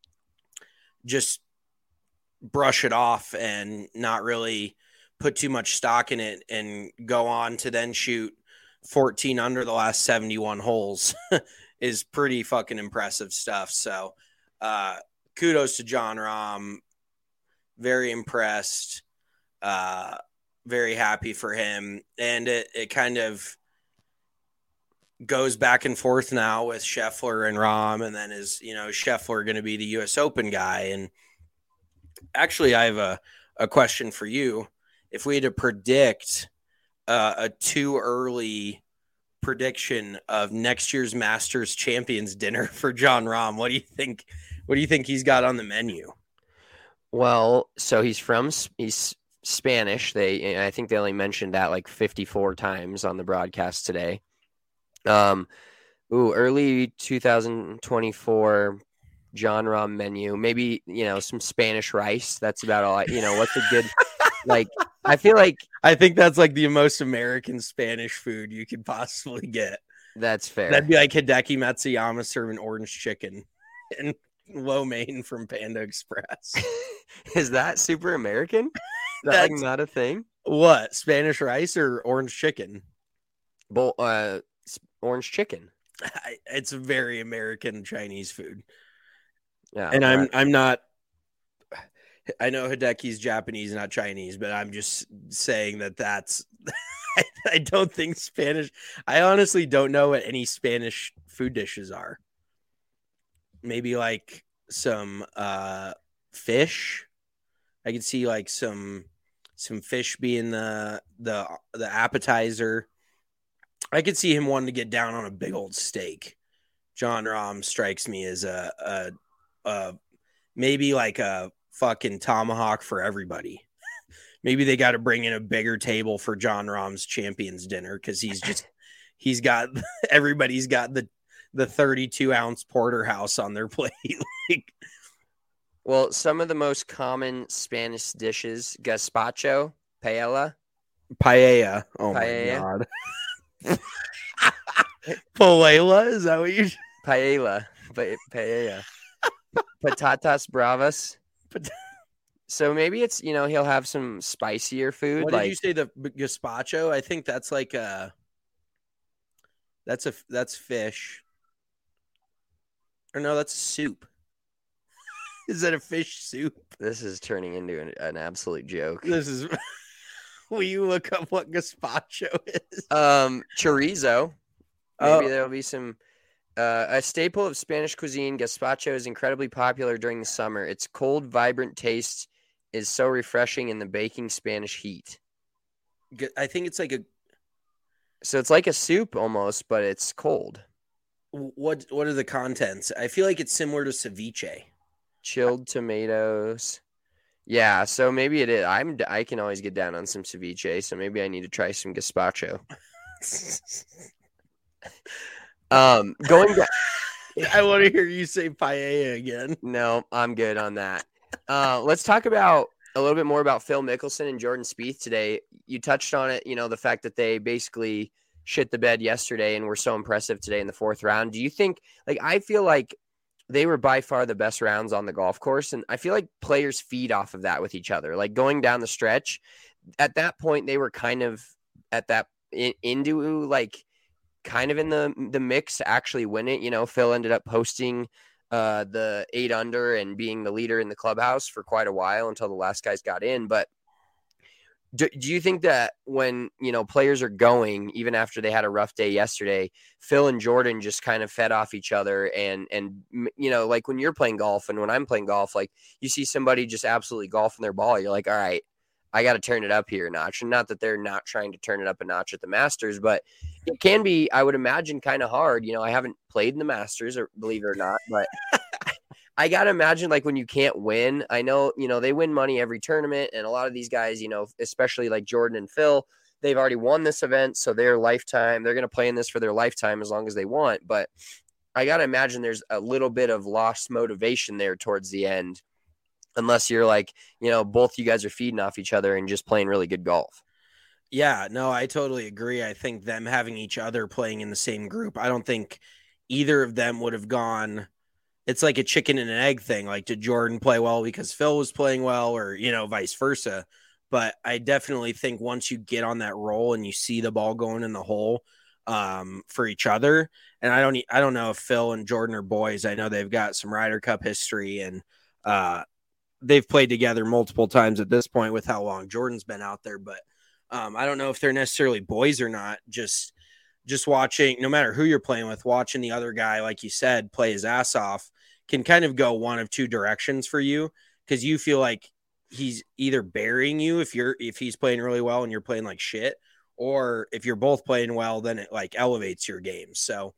Speaker 5: just brush it off and not really put too much stock in it and go on to then shoot 14 under the last 71 holes is pretty fucking impressive stuff. So kudos to Jon Rahm. Very impressed. Very happy for him. And it kind of goes back and forth now with Scheffler and Rahm, and then is Scheffler going to be the U.S. Open guy? And actually, I have a question for you. If we had to predict a too early prediction of next year's Masters Champions dinner for Jon Rahm, what do you think? What do you think he's got on the menu?
Speaker 1: Well, so he's Spanish. I think they only mentioned that like 54 times on the broadcast today. Early 2024 Jon Rahm menu. Maybe, some Spanish rice. That's about all. What's a good, I think
Speaker 5: that's like the most American Spanish food you could possibly get.
Speaker 1: That's fair.
Speaker 5: That'd be like Hideki Matsuyama serving orange chicken and lo mein from Panda Express.
Speaker 1: Is that super American? Is that like
Speaker 5: That's-
Speaker 1: not a thing?
Speaker 5: What? Spanish rice or orange chicken?
Speaker 1: Orange chicken.
Speaker 5: It's very American Chinese food.
Speaker 1: Yeah.
Speaker 5: And
Speaker 1: well,
Speaker 5: I'm not. I know Hideki's Japanese, not Chinese, but I'm just saying that's. I don't think Spanish. I honestly don't know what any Spanish food dishes are. Maybe like some fish. I could see like some fish being the appetizer. I could see him wanting to get down on a big old steak. John Rahm strikes me as a maybe like a fucking tomahawk for everybody. Maybe they got to bring in a bigger table for John Rahm's champions dinner because he's got everybody's got the 32-ounce porterhouse on their plate. Like,
Speaker 1: well, some of the most common Spanish dishes: gazpacho, paella.
Speaker 5: Oh
Speaker 1: Paella.
Speaker 5: my god. Paella, is that what you?
Speaker 1: Paella. Paella. Patatas bravas. So maybe it's, he'll have some spicier food.
Speaker 5: What
Speaker 1: like,
Speaker 5: did you say? The gazpacho? I think that's like that's fish. Or no, that's soup. Is that a fish soup?
Speaker 1: This is turning into an absolute joke.
Speaker 5: This is. Will you look up what gazpacho is?
Speaker 1: Chorizo. Maybe there'll be some. A staple of Spanish cuisine, gazpacho is incredibly popular during the summer. Its cold, vibrant taste is so refreshing in the baking Spanish heat.
Speaker 5: I think it's like
Speaker 1: So it's like a soup almost, but it's cold.
Speaker 5: What are the contents? I feel like it's similar to ceviche.
Speaker 1: Chilled tomatoes. Yeah, so maybe it is. I can always get down on some ceviche, so maybe I need to try some gazpacho. Going back.
Speaker 5: I want to hear you say paella again.
Speaker 1: No, I'm good on that. Let's talk about a little bit more about Phil Mickelson and Jordan Spieth today. You touched on it, the fact that they basically shit the bed yesterday and were so impressive today in the fourth round. Do you think, I feel like they were by far the best rounds on the golf course, and I feel like players feed off of that with each other. Like going down the stretch, at that point they were kind of at that into kind of in the mix to actually win it. Phil ended up posting the 8 under and being the leader in the clubhouse for quite a while until the last guys got in. But do you think that when, players are going, even after they had a rough day yesterday, Phil and Jordan just kind of fed off each other and like when you're playing golf and when I'm playing golf, like you see somebody just absolutely golfing their ball. You're like, all right, I got to turn it up here a notch. And not that they're not trying to turn it up a notch at the Masters, but it can be, I would imagine, kind of hard. I haven't played in the Masters, or believe it or not, but I got to imagine when you can't win. I know, they win money every tournament, and a lot of these guys, especially like Jordan and Phil, they've already won this event. So they're going to play in this for their lifetime as long as they want. But I got to imagine there's a little bit of lost motivation there towards the end. Unless you're both you guys are feeding off each other and just playing really good golf.
Speaker 5: Yeah, no, I totally agree. I think them having each other playing in the same group, I don't think either of them would have gone. It's like a chicken and an egg thing. Like, did Jordan play well because Phil was playing well, or, vice versa? But I definitely think once you get on that roll and you see the ball going in the hole for each other, and I don't know if Phil and Jordan are boys. I know they've got some Ryder Cup history, and they've played together multiple times at this point with how long Jordan's been out there. But I don't know if they're necessarily boys or not. Just watching, no matter who you're playing with, watching the other guy, like you said, play his ass off can kind of go one of two directions for you, because you feel like he's either burying you if he's playing really well and you're playing like shit, or if you're both playing well, then it elevates your game. So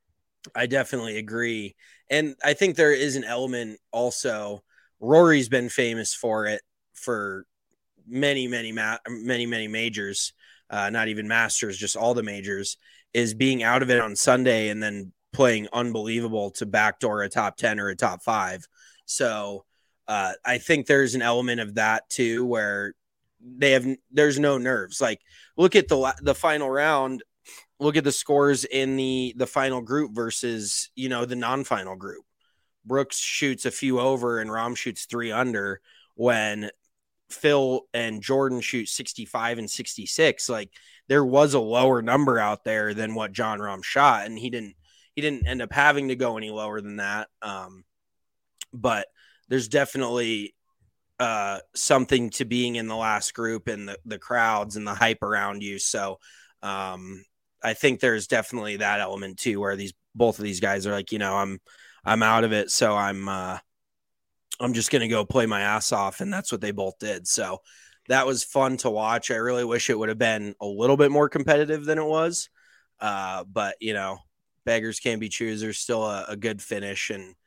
Speaker 5: I definitely agree. And I think there is an element also. Rory's been famous for it for many majors, not even Masters, just all the majors, is being out of it on Sunday and then playing unbelievable to backdoor a top 10 or a top 5. So I think there's an element of that too, where there's no nerves. Like, look at the final round, look at the scores in the final group versus, the non-final group. Brooks shoots a few over and Rahm shoots 3 under, when Phil and Jordan shoot 65 and 66. Like, there was a lower number out there than what Jon Rahm shot, and he didn't end up having to go any lower than that. But there's definitely something to being in the last group and the crowds and the hype around you. So I think there's definitely that element too, where both of these guys are like, I'm out of it. So I'm just going to go play my ass off. And that's what they both did. So that was fun to watch. I really wish it would have been a little bit more competitive than it was. But beggars can't be choosers. Still a good finish. And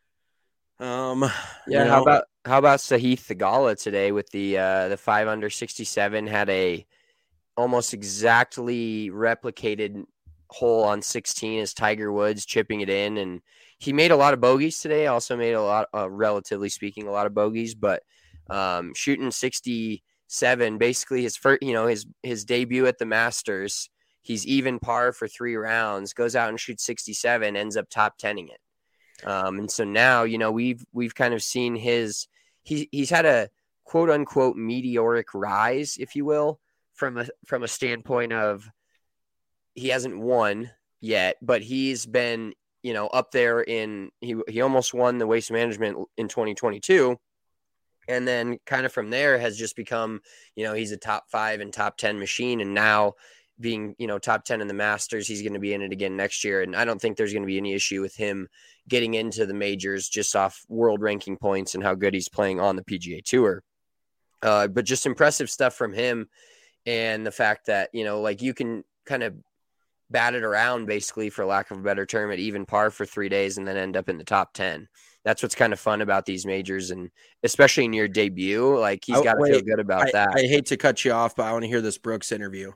Speaker 1: how about Sahith Theegala today with the 5 under 67, had a almost exactly replicated hole on 16 as Tiger Woods, chipping it in, and he made a lot of bogeys today. Also made a lot, relatively speaking, a lot of bogeys, but shooting 67, basically his first, his debut at the Masters. He's even par for 3 rounds, goes out and shoots 67, ends up top 10ing it. And so now, we've kind of seen he's had a quote unquote meteoric rise, if you will, from a standpoint of he hasn't won yet, but he's been, up there he almost won the Waste Management in 2022. And then kind of from there has just become, he's a top 5 and top 10 machine. And now being, top 10 in the Masters, he's going to be in it again next year. And I don't think there's going to be any issue with him getting into the majors just off world ranking points and how good he's playing on the PGA Tour. But just impressive stuff from him. And the fact that, you can kind of bat it around, basically, for lack of a better term, at even par for 3 days and then end up in the top 10. That's what's kind of fun about these majors, and especially in your debut, like he's got to feel good about that.
Speaker 5: I hate to cut you off, but I want to hear this Brooks interview.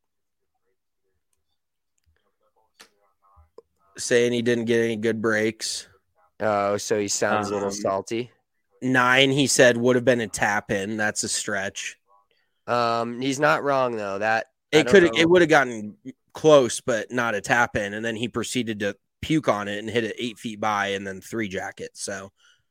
Speaker 5: Saying he didn't get any good breaks.
Speaker 1: Oh, so he sounds a little salty.
Speaker 5: 9, he said, would have been a tap in. That's a stretch.
Speaker 1: He's not wrong though. That
Speaker 5: it would have gotten close, but not a tap in. And then he proceeded to puke on it and hit it 8 feet by and then 3 jackets. So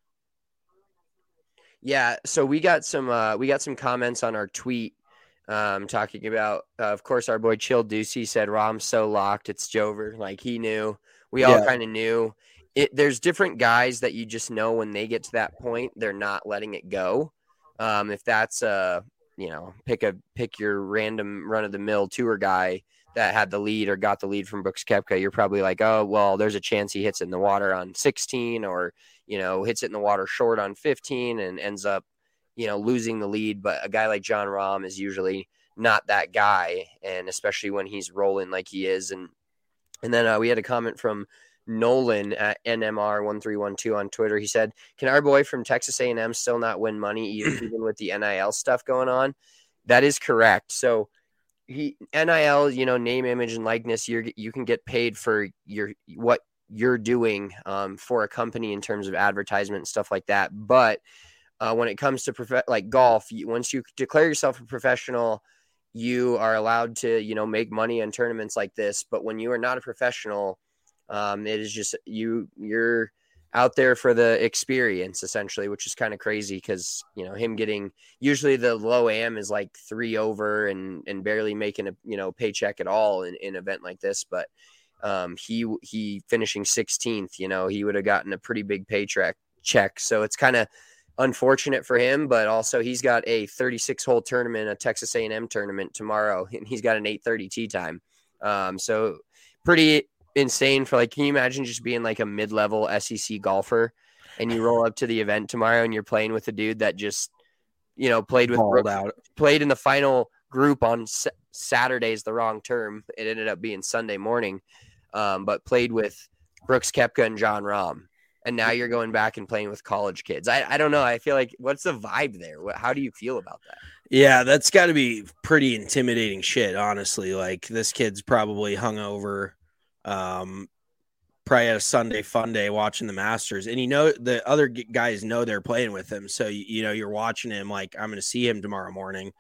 Speaker 1: yeah, so we got some comments on our tweet talking about of course our boy Chill Ducey said Rahm's so locked it's Jover. Like he knew. We all kind of knew. There's different guys that you just know when they get to that point, they're not letting it go. If that's pick your random run of the mill tour guy that had the lead or got the lead from Brooks Koepka, you're probably like, oh, well, there's a chance he hits it in the water on 16 or, hits it in the water short on 15 and ends up, losing the lead. But a guy like Jon Rahm is usually not that guy. And especially when he's rolling like he is. And then we had a comment from Nolan at NMR1312 on Twitter. He said, can our boy from Texas A&M still not win money even with the NIL stuff going on? That is correct. So NIL, name, image, and likeness, you can get paid for what you're doing for a company in terms of advertisement and stuff like that. But when it comes to like golf, once you declare yourself a professional, you are allowed to, make money on tournaments like this. But when you are not a professional, it is just you're out there for the experience essentially, which is kind of crazy because, him getting usually the low AM is like 3 over and barely making a, paycheck at all in an event like this. But he finishing 16th, he would have gotten a pretty big paycheck. So it's kind of unfortunate for him, but also he's got a 36 hole tournament, a Texas A&M tournament tomorrow, and he's got an 8:30 tee time. So pretty insane for can you imagine just being like a mid-level SEC golfer and you roll up to the event tomorrow and you're playing with a dude that just, played with Brooks, played in the final group on Saturday is the wrong term. It ended up being Sunday morning, but played with Brooks Koepka and Jon Rahm. And now you're going back and playing with college kids. I don't know. I feel like what's the vibe there? How do you feel about that?
Speaker 5: Yeah, that's got to be pretty intimidating shit, honestly. Like this kid's probably hungover. Probably at a Sunday fun day watching the Masters, and the other guys know they're playing with him, so you're watching him like I'm going to see him tomorrow morning.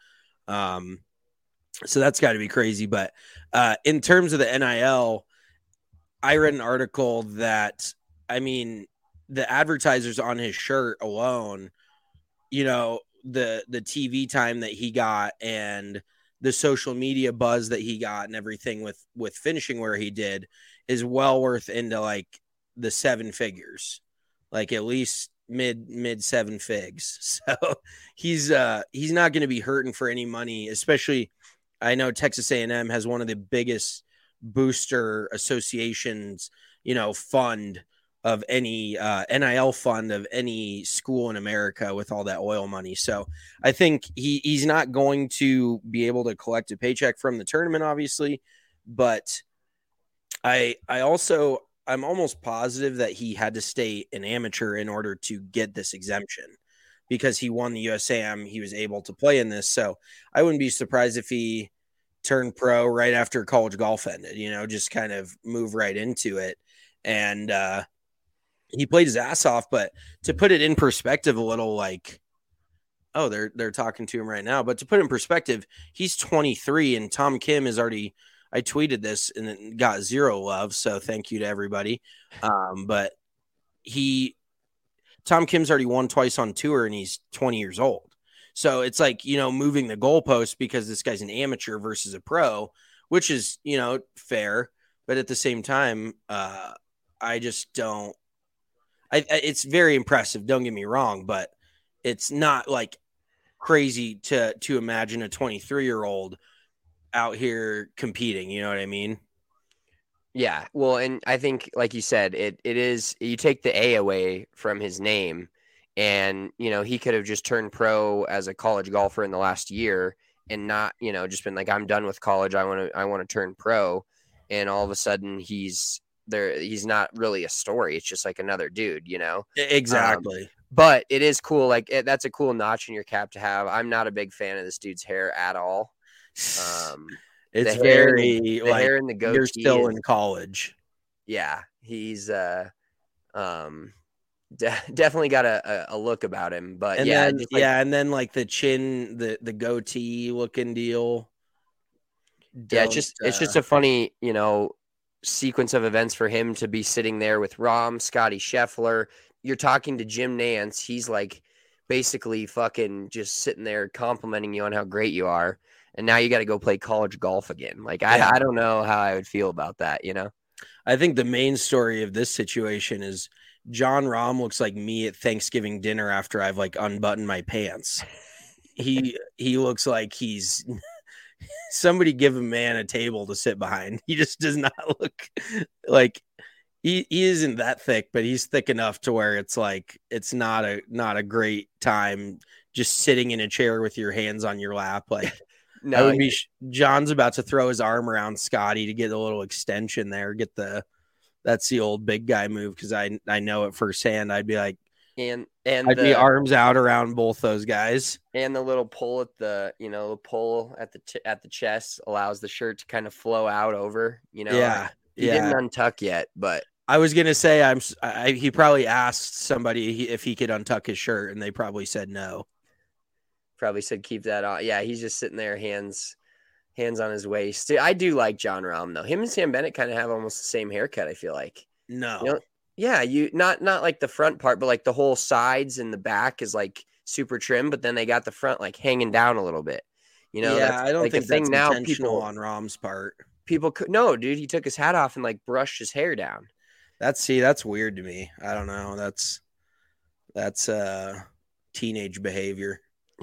Speaker 5: So that's got to be crazy. But in terms of the NIL, I read an article that the advertisers on his shirt alone, you know, the TV time that he got and the social media buzz that he got and everything with finishing where he did is well worth into like the 7 figures, like at least mid 7 figs. So he's not going to be hurting for any money, especially I know Texas A&M has one of the biggest booster associations, you know, fund of any NIL fund of any school in America with all that oil money. So I think he's not going to be able to collect a paycheck from the tournament, obviously, but I'm almost positive that he had to stay an amateur in order to get this exemption because he won the USAM. He was able to play in this. So I wouldn't be surprised if he turned pro right after college golf ended, you know, just kind of move right into it. And, he played his ass off, but to put it in perspective a little, like, oh, they're talking to him right now. But to put it in perspective, he's 23 and Tom Kim is already, I tweeted this and it got 0 love. So thank you to everybody. But Tom Kim's already won twice on tour and he's 20 years old. So it's like, you know, moving the goalpost because this guy's an amateur versus a pro, which is, you know, fair. But at the same time, I just don't. It's very impressive. Don't get me wrong, but it's not like crazy to imagine a 23-year-old out here competing. You know what I mean?
Speaker 1: Yeah. Well, and I think, like you said, it is, you take the A away from his name and, you know, he could have just turned pro as a college golfer in the last year and not, you know, just been like, I'm done with college. I want to turn pro. And all of a sudden he's not really a story. It's just like another dude, you know?
Speaker 5: Exactly.
Speaker 1: But it is cool. Like that's a cool notch in your cap to have. I'm not a big fan of this dude's hair at all.
Speaker 5: It's very
Speaker 1: hair and the goatee.
Speaker 5: You're still in college.
Speaker 1: Yeah. He's, definitely got a look about him, but
Speaker 5: and
Speaker 1: yeah.
Speaker 5: Then, and then like the chin, the goatee looking deal.
Speaker 1: It's just a funny, you know, sequence of events for him to be sitting there with Rahm, Scotty Scheffler. You're talking to Jim Nance. He's like basically fucking just sitting there complimenting you on how great you are. And now you got to go play college golf again. Like, I don't know how I would feel about that, you know?
Speaker 5: I think the main story of this situation is Jon Rahm looks like me at Thanksgiving dinner after I've like unbuttoned my pants. He looks like he's somebody give a man a table to sit behind. He just does not look like he isn't that thick, but he's thick enough to where it's like it's not a great time just sitting in a chair with your hands on your lap. Like no, John's about to throw his arm around Scotty to get a little extension there. That's the old big guy move because I know it firsthand. I'd be like,
Speaker 1: and
Speaker 5: I'd be arms out around both those guys.
Speaker 1: And the little pull at the at the chest allows the shirt to kind of flow out over, you know.
Speaker 5: Yeah.
Speaker 1: He didn't untuck yet, but
Speaker 5: I was going to say he probably asked somebody if he could untuck his shirt and they probably said no.
Speaker 1: Probably said keep that on. Yeah, he's just sitting there hands on his waist. Dude, I do like Jon Rahm though. Him and Sam Bennett kind of have almost the same haircut, I feel like.
Speaker 5: No.
Speaker 1: You know? Yeah, you not like the front part, but like the whole sides and the back is like super trim, but then they got the front like hanging down a little bit. You know,
Speaker 5: yeah, I don't
Speaker 1: like
Speaker 5: think
Speaker 1: that's
Speaker 5: now intentional on Rahm's part.
Speaker 1: People could no, dude. He took his hat off and like brushed his hair down.
Speaker 5: That's weird to me. I don't know. That's teenage behavior.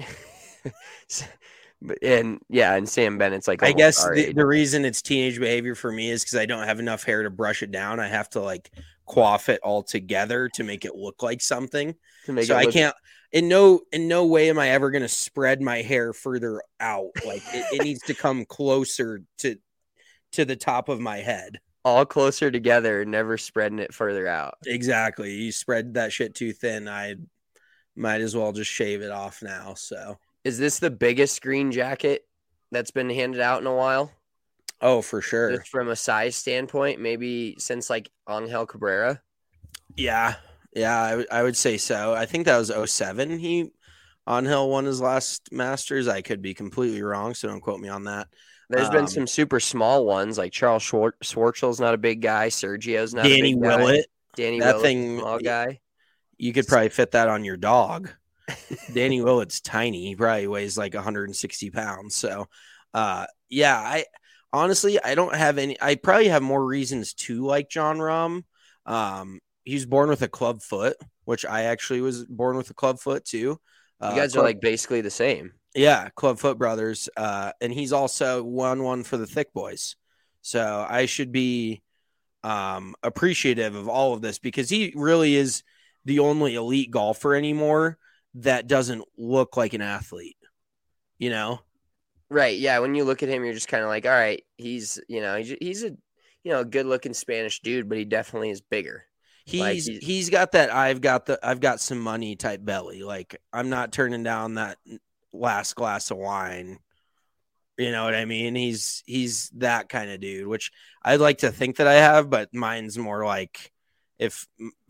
Speaker 1: And Sam Bennett's like,
Speaker 5: I guess the reason it's teenage behavior for me is because I don't have enough hair to brush it down. I have to like coif it all together to make it look like something. I can't. In no way am I ever going to spread my hair further out. Like it needs to come closer to the top of my head.
Speaker 1: All closer together, never spreading it further out.
Speaker 5: Exactly. You spread that shit too thin, I might as well just shave it off now. So,
Speaker 1: is this the biggest green jacket that's been handed out in a while?
Speaker 5: Oh, for sure.
Speaker 1: Just from a size standpoint, maybe since like Angel Cabrera.
Speaker 5: Yeah, I would say so. I think that was 2007. Angel won his last Masters. I could be completely wrong, so don't quote me on that.
Speaker 1: There's been some super small ones like Charles Schwartzel's not a big guy. Sergio's not
Speaker 5: Danny
Speaker 1: a big
Speaker 5: Willett.
Speaker 1: guy. Danny
Speaker 5: that
Speaker 1: Willett,
Speaker 5: thing,
Speaker 1: small guy.
Speaker 5: you could probably fit that on your dog. Danny Willett's tiny. He probably weighs like 160 pounds. So, I honestly, I don't have any. I probably have more reasons to like John Rahm. He was born with a club foot, which I actually was born with a club foot too.
Speaker 1: You guys are like basically the same.
Speaker 5: Yeah, Clubfoot brothers. And he's also won one for the Thick Boys. So I should be appreciative of all of this because he really is the only elite golfer anymore that doesn't look like an athlete, you know?
Speaker 1: Right. Yeah. When you look at him, you're just kind of like, all right, he's a good looking Spanish dude, but he definitely is bigger.
Speaker 5: He's got that I've got some money type belly. Like I'm not turning down that last glass of wine. You know what I mean? He's that kind of dude, which I'd like to think that I have, but mine's more like if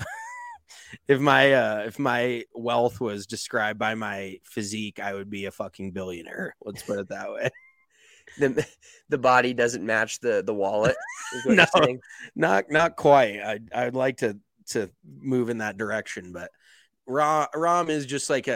Speaker 5: my wealth was described by my physique, I would be a fucking billionaire. Let's put it that way.
Speaker 1: The body doesn't match the wallet. Is what you're saying?
Speaker 5: Not quite. I'd like to move in that direction, but Rahm is just like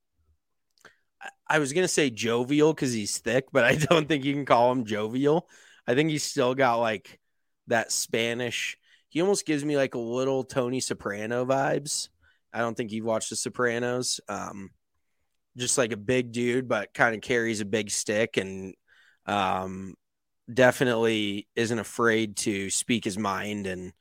Speaker 5: I was gonna say jovial because he's thick, but I don't think you can call him jovial. I think he's still got like that Spanish. He almost gives me like a little Tony Soprano vibes. I don't think you've watched The Sopranos. Just like a big dude, but kind of carries a big stick and definitely isn't afraid to speak his mind. And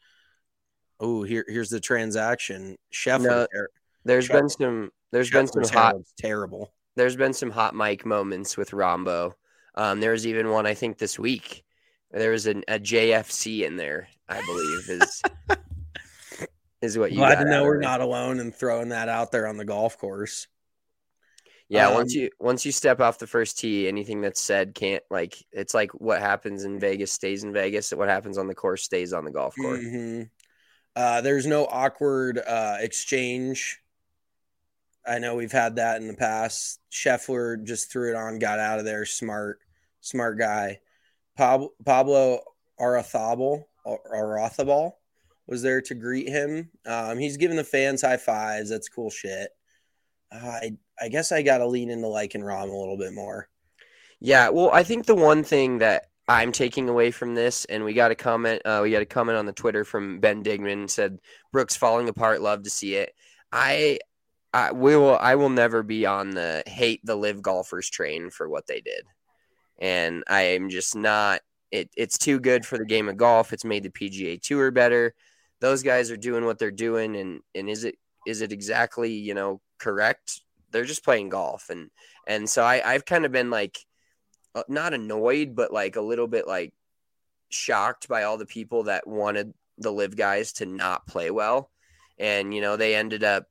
Speaker 5: here's the transaction. Scheffler.
Speaker 1: No, there's been some
Speaker 5: terrible.
Speaker 1: There's been some hot mic moments with Rombo. There was even one I think this week. There was a JFC in there, I believe, is what you
Speaker 5: glad
Speaker 1: got
Speaker 5: to know we're not alone in throwing that out there on the golf course.
Speaker 1: Yeah, once you step off the first tee, anything that's said can't it's like what happens in Vegas stays in Vegas. What happens on the course stays on the golf course.
Speaker 5: Mm-hmm. There's no awkward exchange. I know we've had that in the past. Scheffler just threw it on, got out of there. Smart guy. Pablo Arrazabal was there to greet him. He's giving the fans high fives. That's cool shit. I guess I got to lean into liking Rahm a little bit more.
Speaker 1: Yeah, well, I think the one thing that I'm taking away from this, and we got a comment on the Twitter from Ben Digman, said Brooks falling apart. Love to see it. I will never be on the hate the live golfers train for what they did. And I am just not it's too good for the game of golf. It's made the PGA Tour better. Those guys are doing what they're doing. And is it exactly, correct? They're just playing golf. And so I've kind of been like, not annoyed, but like a little bit like shocked by all the people that wanted the live guys to not play well. And, they ended up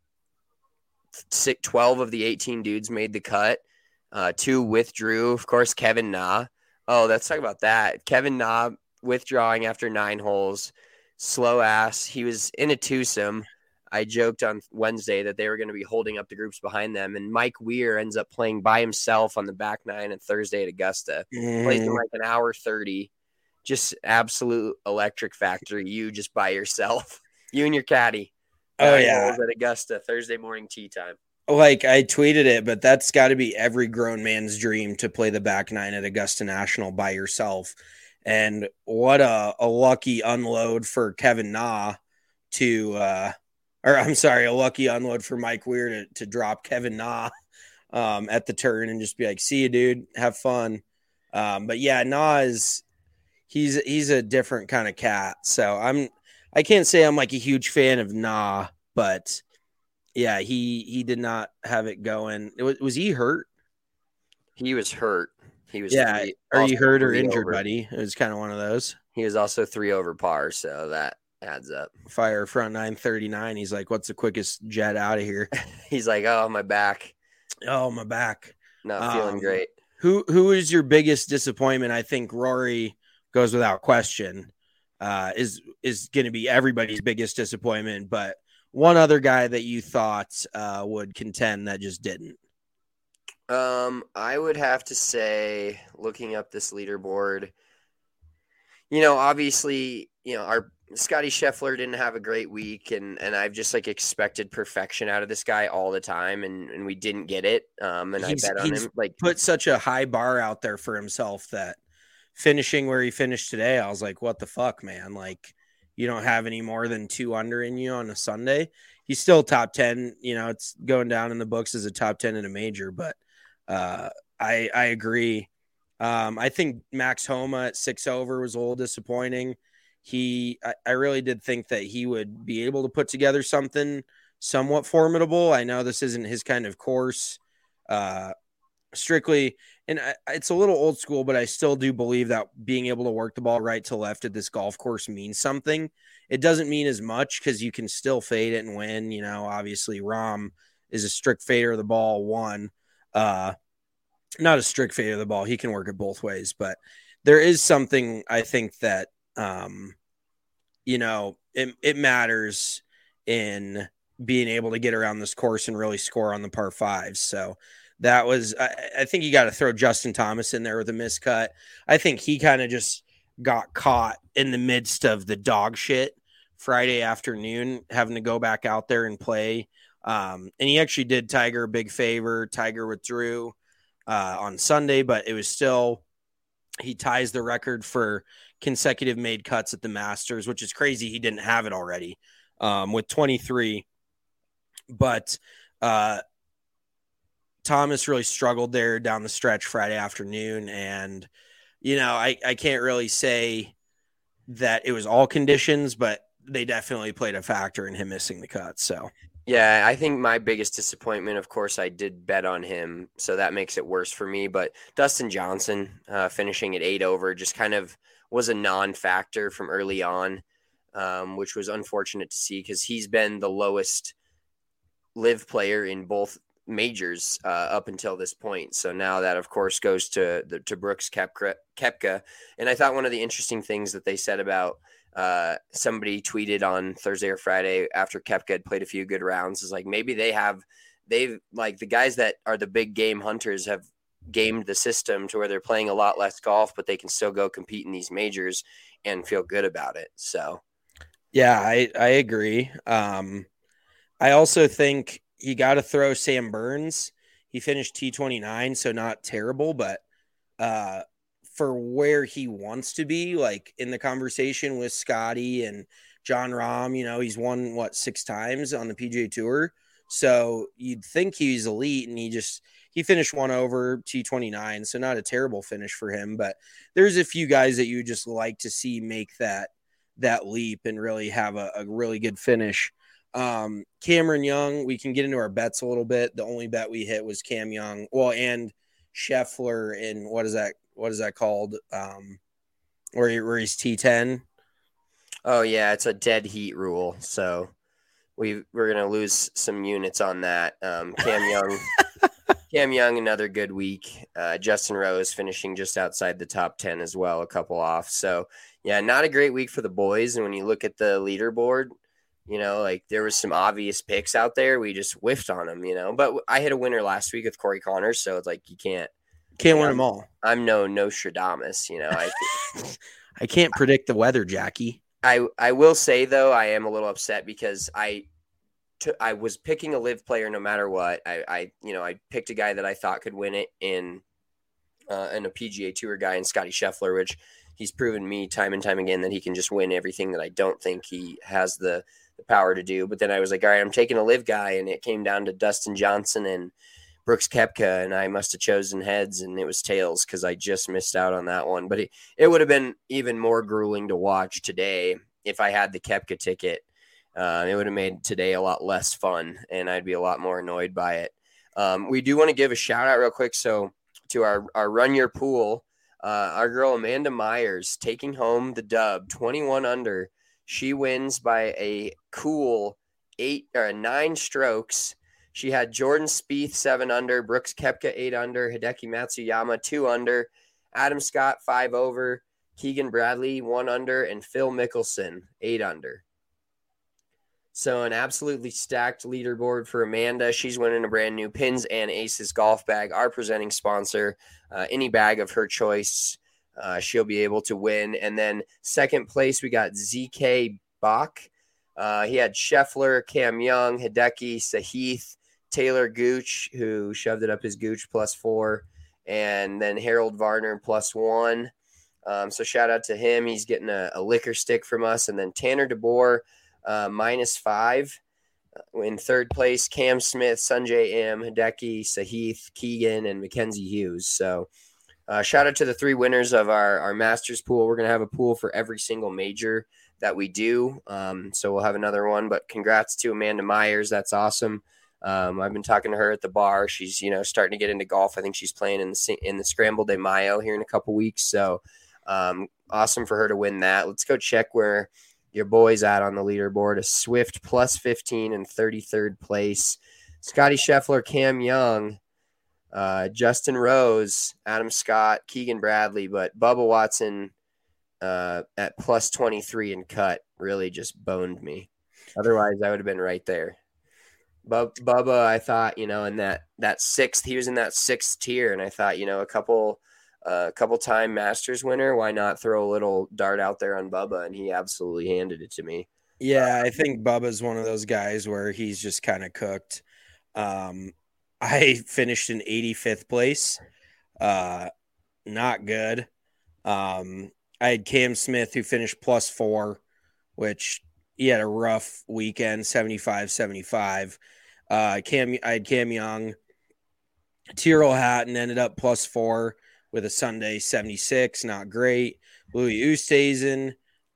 Speaker 1: 12 of the 18 dudes made the cut. 2 withdrew. Of course, Kevin Na. Oh, let's talk about that. Kevin Na withdrawing after 9 holes. Slow ass. He was in a twosome. I joked on Wednesday that they were going to be holding up the groups behind them. And Mike Weir ends up playing by himself on the back 9 on Thursday at Augusta. Plays in like an hour 30. Just absolute electric factory. You just by yourself. You and your caddy.
Speaker 5: Oh, yeah.
Speaker 1: At Augusta, Thursday morning tee time.
Speaker 5: Like I tweeted it, but that's got to be every grown man's dream to play the back 9 at Augusta National by yourself. And what a lucky unload for Kevin Na a lucky unload for Mike Weir to drop Kevin Na at the turn and just be like, see you, dude, have fun. But yeah, Na he's a different kind of cat. So I can't say I'm like a huge fan of Na, but yeah, he did not have it going. Was he hurt?
Speaker 1: He was hurt. He was.
Speaker 5: Yeah. Are you hurt or injured, buddy? It was kind of one of those.
Speaker 1: He was also 3 over par, so that adds up.
Speaker 5: Fire front 939. He's like, what's the quickest jet out of here?
Speaker 1: He's like, oh, my back.
Speaker 5: Oh, my back.
Speaker 1: Not feeling great.
Speaker 5: Who is your biggest disappointment? I think Rory goes without question. Is going to be everybody's biggest disappointment, but one other guy that you thought would contend that just didn't.
Speaker 1: I would have to say, looking up this leaderboard, obviously, Scotty Scheffler didn't have a great week, and I've just like expected perfection out of this guy all the time, and we didn't get it. And I bet on him. Like,
Speaker 5: put such a high bar out there for himself that finishing where he finished today, I was like, what the fuck, man? Like, you don't have any more than 2 under in you on a Sunday. He's still top 10. You know, it's going down in the books as a top 10 in a major, but I agree. I think Max Homa at 6 over was a little disappointing. I really did think that he would be able to put together something somewhat formidable. I know this isn't his kind of course, strictly, and it's a little old school, but I still do believe that being able to work the ball right to left at this golf course means something. It doesn't mean as much because you can still fade it and win. You know, obviously Rahm is a strict fader of the ball. Not a strict fader of the ball. He can work it both ways, but there is something I think that, you know, it matters in being able to get around this course and really score on the par fives. So that was, I think you got to throw Justin Thomas in there with a miscut. I think he kind of just got caught in the midst of the dog shit Friday afternoon, having to go back out there and play. And he actually did Tiger a big favor. Tiger withdrew on Sunday, but it was still, he ties the record for consecutive made cuts at the Masters, which is crazy. He didn't have it already with 23. But Thomas really struggled there down the stretch Friday afternoon. And, you know, I can't really say that it was all conditions, but they definitely played a factor in him missing the cut. So,
Speaker 1: yeah, I think my biggest disappointment, of course, I did bet on him, so that makes it worse for me. But Dustin Johnson finishing at 8 over just kind of was a non-factor from early on, which was unfortunate to see because he's been the lowest live player in both majors up until this point. So now that, of course, goes to Brooks Koepka. And I thought one of the interesting things that they said about somebody tweeted on Thursday or Friday after Koepka had played a few good rounds is like maybe they've like the guys that are the big game hunters have gamed the system to where they're playing a lot less golf, but they can still go compete in these majors and feel good about it. So,
Speaker 5: yeah, I agree. I also think you got to throw Sam Burns. He finished T29, so not terrible, but for where he wants to be, like in the conversation with Scotty and Jon Rahm, you know, he's won 6 times on the PGA Tour. So you'd think he's elite, and he finished 1 over T29, so not a terrible finish for him. But there's a few guys that you just like to see make that leap and really have a really good finish. Cameron Young, we can get into our bets a little bit. The only bet we hit was Cam Young, and Scheffler in what is that called? Where he's T10.
Speaker 1: Oh yeah, it's a dead heat rule. So we're gonna lose some units on that. Cam Young, another good week. Justin Rose finishing just outside the top 10 as well, a couple off. So yeah, not a great week for the boys. And when you look at the leaderboard, you know, like there was some obvious picks out there. We just whiffed on them, you know. But I hit a winner last week with Corey Connors, so it's like you can't
Speaker 5: win them all.
Speaker 1: I'm no Nostradamus, you know.
Speaker 5: I can't predict the weather, Jackie.
Speaker 1: I will say though, I am a little upset because I was picking a live player no matter what. I picked a guy that I thought could win it in a PGA Tour guy in Scotty Scheffler, which he's proven me time and time again that he can just win everything that I don't think he has the power to do. But then I was like, all right, I'm taking a live guy, and it came down to Dustin Johnson and Brooks Koepka, and I must have chosen heads, and it was tails because I just missed out on that one. But it would have been even more grueling to watch today if I had the Koepka ticket. It would have made today a lot less fun, and I'd be a lot more annoyed by it. We do want to give a shout out real quick. So to our Run Your Pool, our girl Amanda Myers taking home the dub, 21 under. She wins by a cool 9 strokes. She had Jordan Spieth 7 under, Brooks Koepka 8 under, Hideki Matsuyama 2 under, Adam Scott 5 over, Keegan Bradley 1 under, and Phil Mickelson 8 under. So an absolutely stacked leaderboard for Amanda. She's winning a brand new Pins and Aces golf bag, our presenting sponsor. Any bag of her choice she'll be able to win. And then second place, we got ZK Bach. He had Scheffler, Cam Young, Hideki, Sahith, Taylor Gooch, who shoved it up his Gooch +4, and then Harold Varner +1. So shout out to him. He's getting a liquor stick from us. And then Tanner DeBoer, -5. In third place, Cam Smith, Sunjay M, Hideki, Sahith, Keegan, and Mackenzie Hughes. So shout out to the 3 winners of our Masters pool. We're going to have a pool for every single major that we do. So we'll have another one. But congrats to Amanda Myers. That's awesome. I've been talking to her at the bar. She's, starting to get into golf. I think she's playing in the Scramble de Mayo here in a couple weeks. So awesome for her to win that. Let's go check where your boy's at on the leaderboard. A Swift +15 in 33rd place. Scotty Scheffler, Cam Young, Justin Rose, Adam Scott, Keegan Bradley, but Bubba Watson at +23 and cut really just boned me. Otherwise, I would have been right there. Bubba, I thought, in that sixth, he was in that 6th tier, and I thought, a couple time Masters winner, why not throw a little dart out there on Bubba? And he absolutely handed it to me.
Speaker 5: Yeah, I think Bubba's one of those guys where he's just kind of cooked. I finished in 85th place. Not good. I had Cam Smith, who finished +4, which he had a rough weekend, 75-75. I had Cam Young. Tyrrell Hatton ended up +4 with a Sunday 76, not great. Louis Oosthuizen,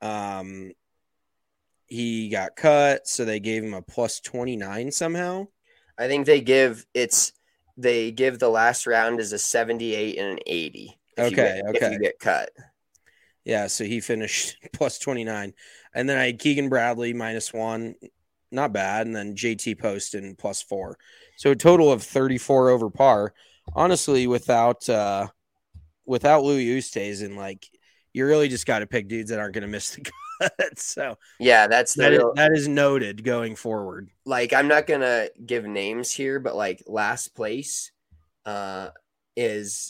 Speaker 5: he got cut, so they gave him a +29 somehow.
Speaker 1: I think they give the last round as a 78 and an 80. If you get cut.
Speaker 5: Yeah, so he finished +29. And then I had Keegan Bradley -1, not bad, and then JT Poston +4. So a total of 34 over par. Honestly, without Louis Oosthuizen, you really just got to pick dudes that aren't going to miss the cut. So
Speaker 1: yeah,
Speaker 5: that is noted going forward.
Speaker 1: I'm not gonna give names here, but last place is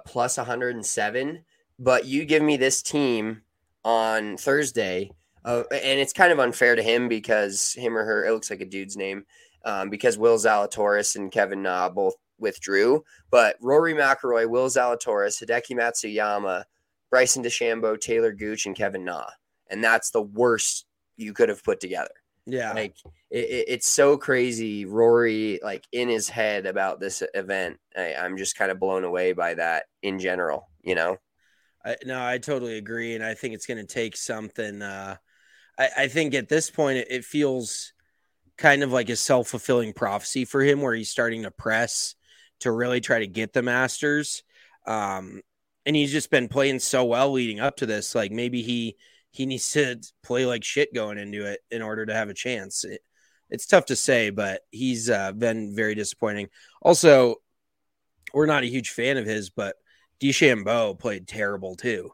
Speaker 1: +107. But you give me this team on Thursday, and it's kind of unfair to him because him or her, it looks like a dude's name, because Will Zalatoris and Kevin Na both withdrew. But Rory McIlroy, Will Zalatoris, Hideki Matsuyama, Bryson DeChambeau, Taylor Gooch, and Kevin Na. And that's the worst you could have put together.
Speaker 5: Yeah.
Speaker 1: It's so crazy. Rory, in his head about this event, I'm just kind of blown away by that in general,
Speaker 5: I totally agree. And I think it's going to take something. I think at this point, it feels kind of like a self-fulfilling prophecy for him where he's starting to press to really try to get the Masters. And he's just been playing so well leading up to this. Maybe he needs to play like shit going into it in order to have a chance. It's tough to say, but he's been very disappointing. Also, we're not a huge fan of his, but DeChambeau played terrible too.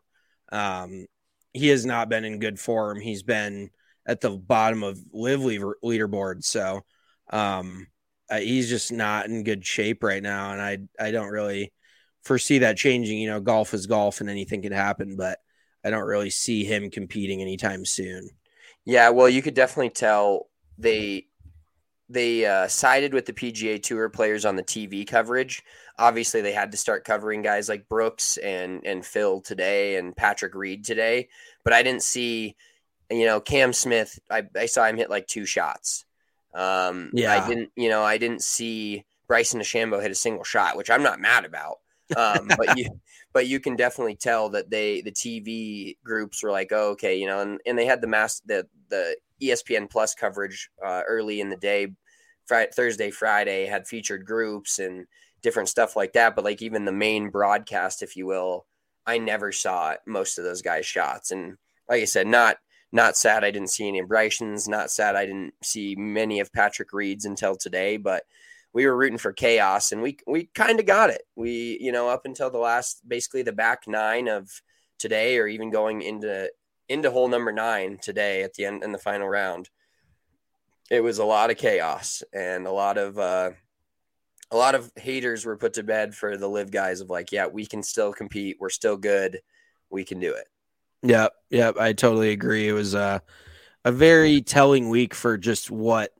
Speaker 5: He has not been in good form. He's been at the bottom of Live leaderboard. So he's just not in good shape right now. And I don't really foresee that changing. Golf is golf and anything can happen, but I don't really see him competing anytime soon.
Speaker 1: Yeah, well, you could definitely tell they sided with the PGA Tour players on the TV coverage. Obviously, they had to start covering guys like Brooks and Phil today and Patrick Reed today. But I didn't see, Cam Smith. I saw him hit 2 shots. I didn't see Bryson DeChambeau hit a single shot, which I'm not mad about. But you can definitely tell that the TV groups were like, oh, okay, and they had the ESPN Plus coverage early in the day, Thursday, Friday, had featured groups and different stuff like that. But even the main broadcast, if you will, I never saw most of those guys' shots. And like I said, not sad I didn't see any of Bryson's, not sad I didn't see many of Patrick Reed's until today, but we were rooting for chaos, and we kind of got it. We, up until basically the back 9 of today, or even going into hole number 9 today at the end in the final round, it was a lot of chaos, and a lot of haters were put to bed for the Live guys of yeah, we can still compete. We're still good. we can do it.
Speaker 5: Yep. I totally agree. It was a very telling week for just what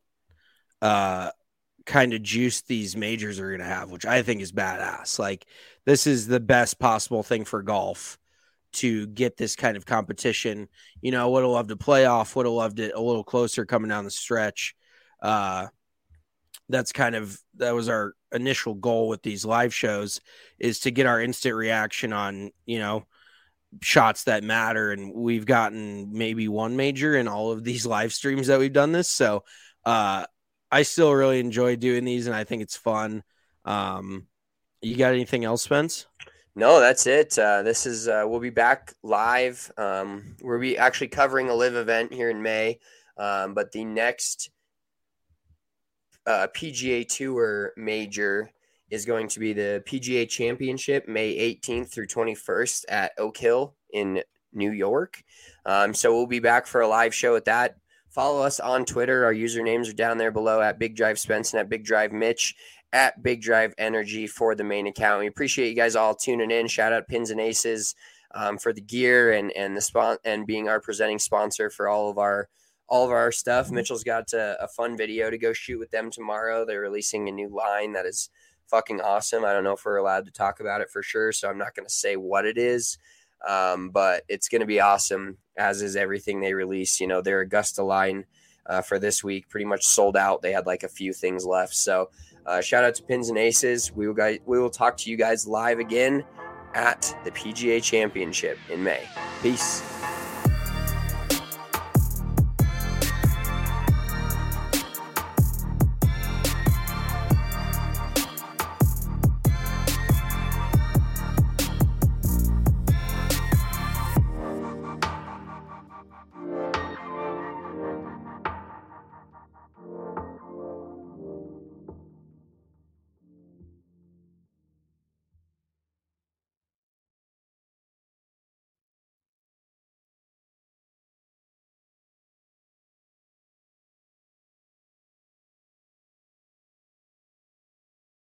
Speaker 5: kind of juice these majors are going to have, which I think is badass. Like, this is the best possible thing for golf to get this kind of competition. You know, would have loved a playoff, would have loved it a little closer coming down the stretch. That was our initial goal with these live shows, is to get our instant reaction on, you know, shots that matter. And we've gotten maybe one major in all of these live streams that we've done this. So I still really enjoy doing these, and I think it's fun. You got anything else, Spence?
Speaker 1: No, that's it. This is we'll be back live. We'll be actually covering a live event here in May, but the next PGA Tour major is going to be the PGA Championship, May 18th through 21st at Oak Hill in New York. So we'll be back for a live show at that. Follow us on Twitter. Our usernames are down there below at Big Drive Spence and at Big Drive Mitch, at Big Drive Energy for the main account. We appreciate you guys all tuning in. Shout out Pins and Aces for the gear and the and being our presenting sponsor for all of our stuff. Mitchell's got a fun video to go shoot with them tomorrow. They're releasing a new line that is fucking awesome. I don't know if we're allowed to talk about it for sure, so I'm not going to say what it is, but it's going to be awesome, as is everything they release. You know, their Augusta line for this week pretty much sold out. They had like a few things left. So shout out to Pins and Aces. We will talk to you guys live again at the PGA Championship in May. Peace.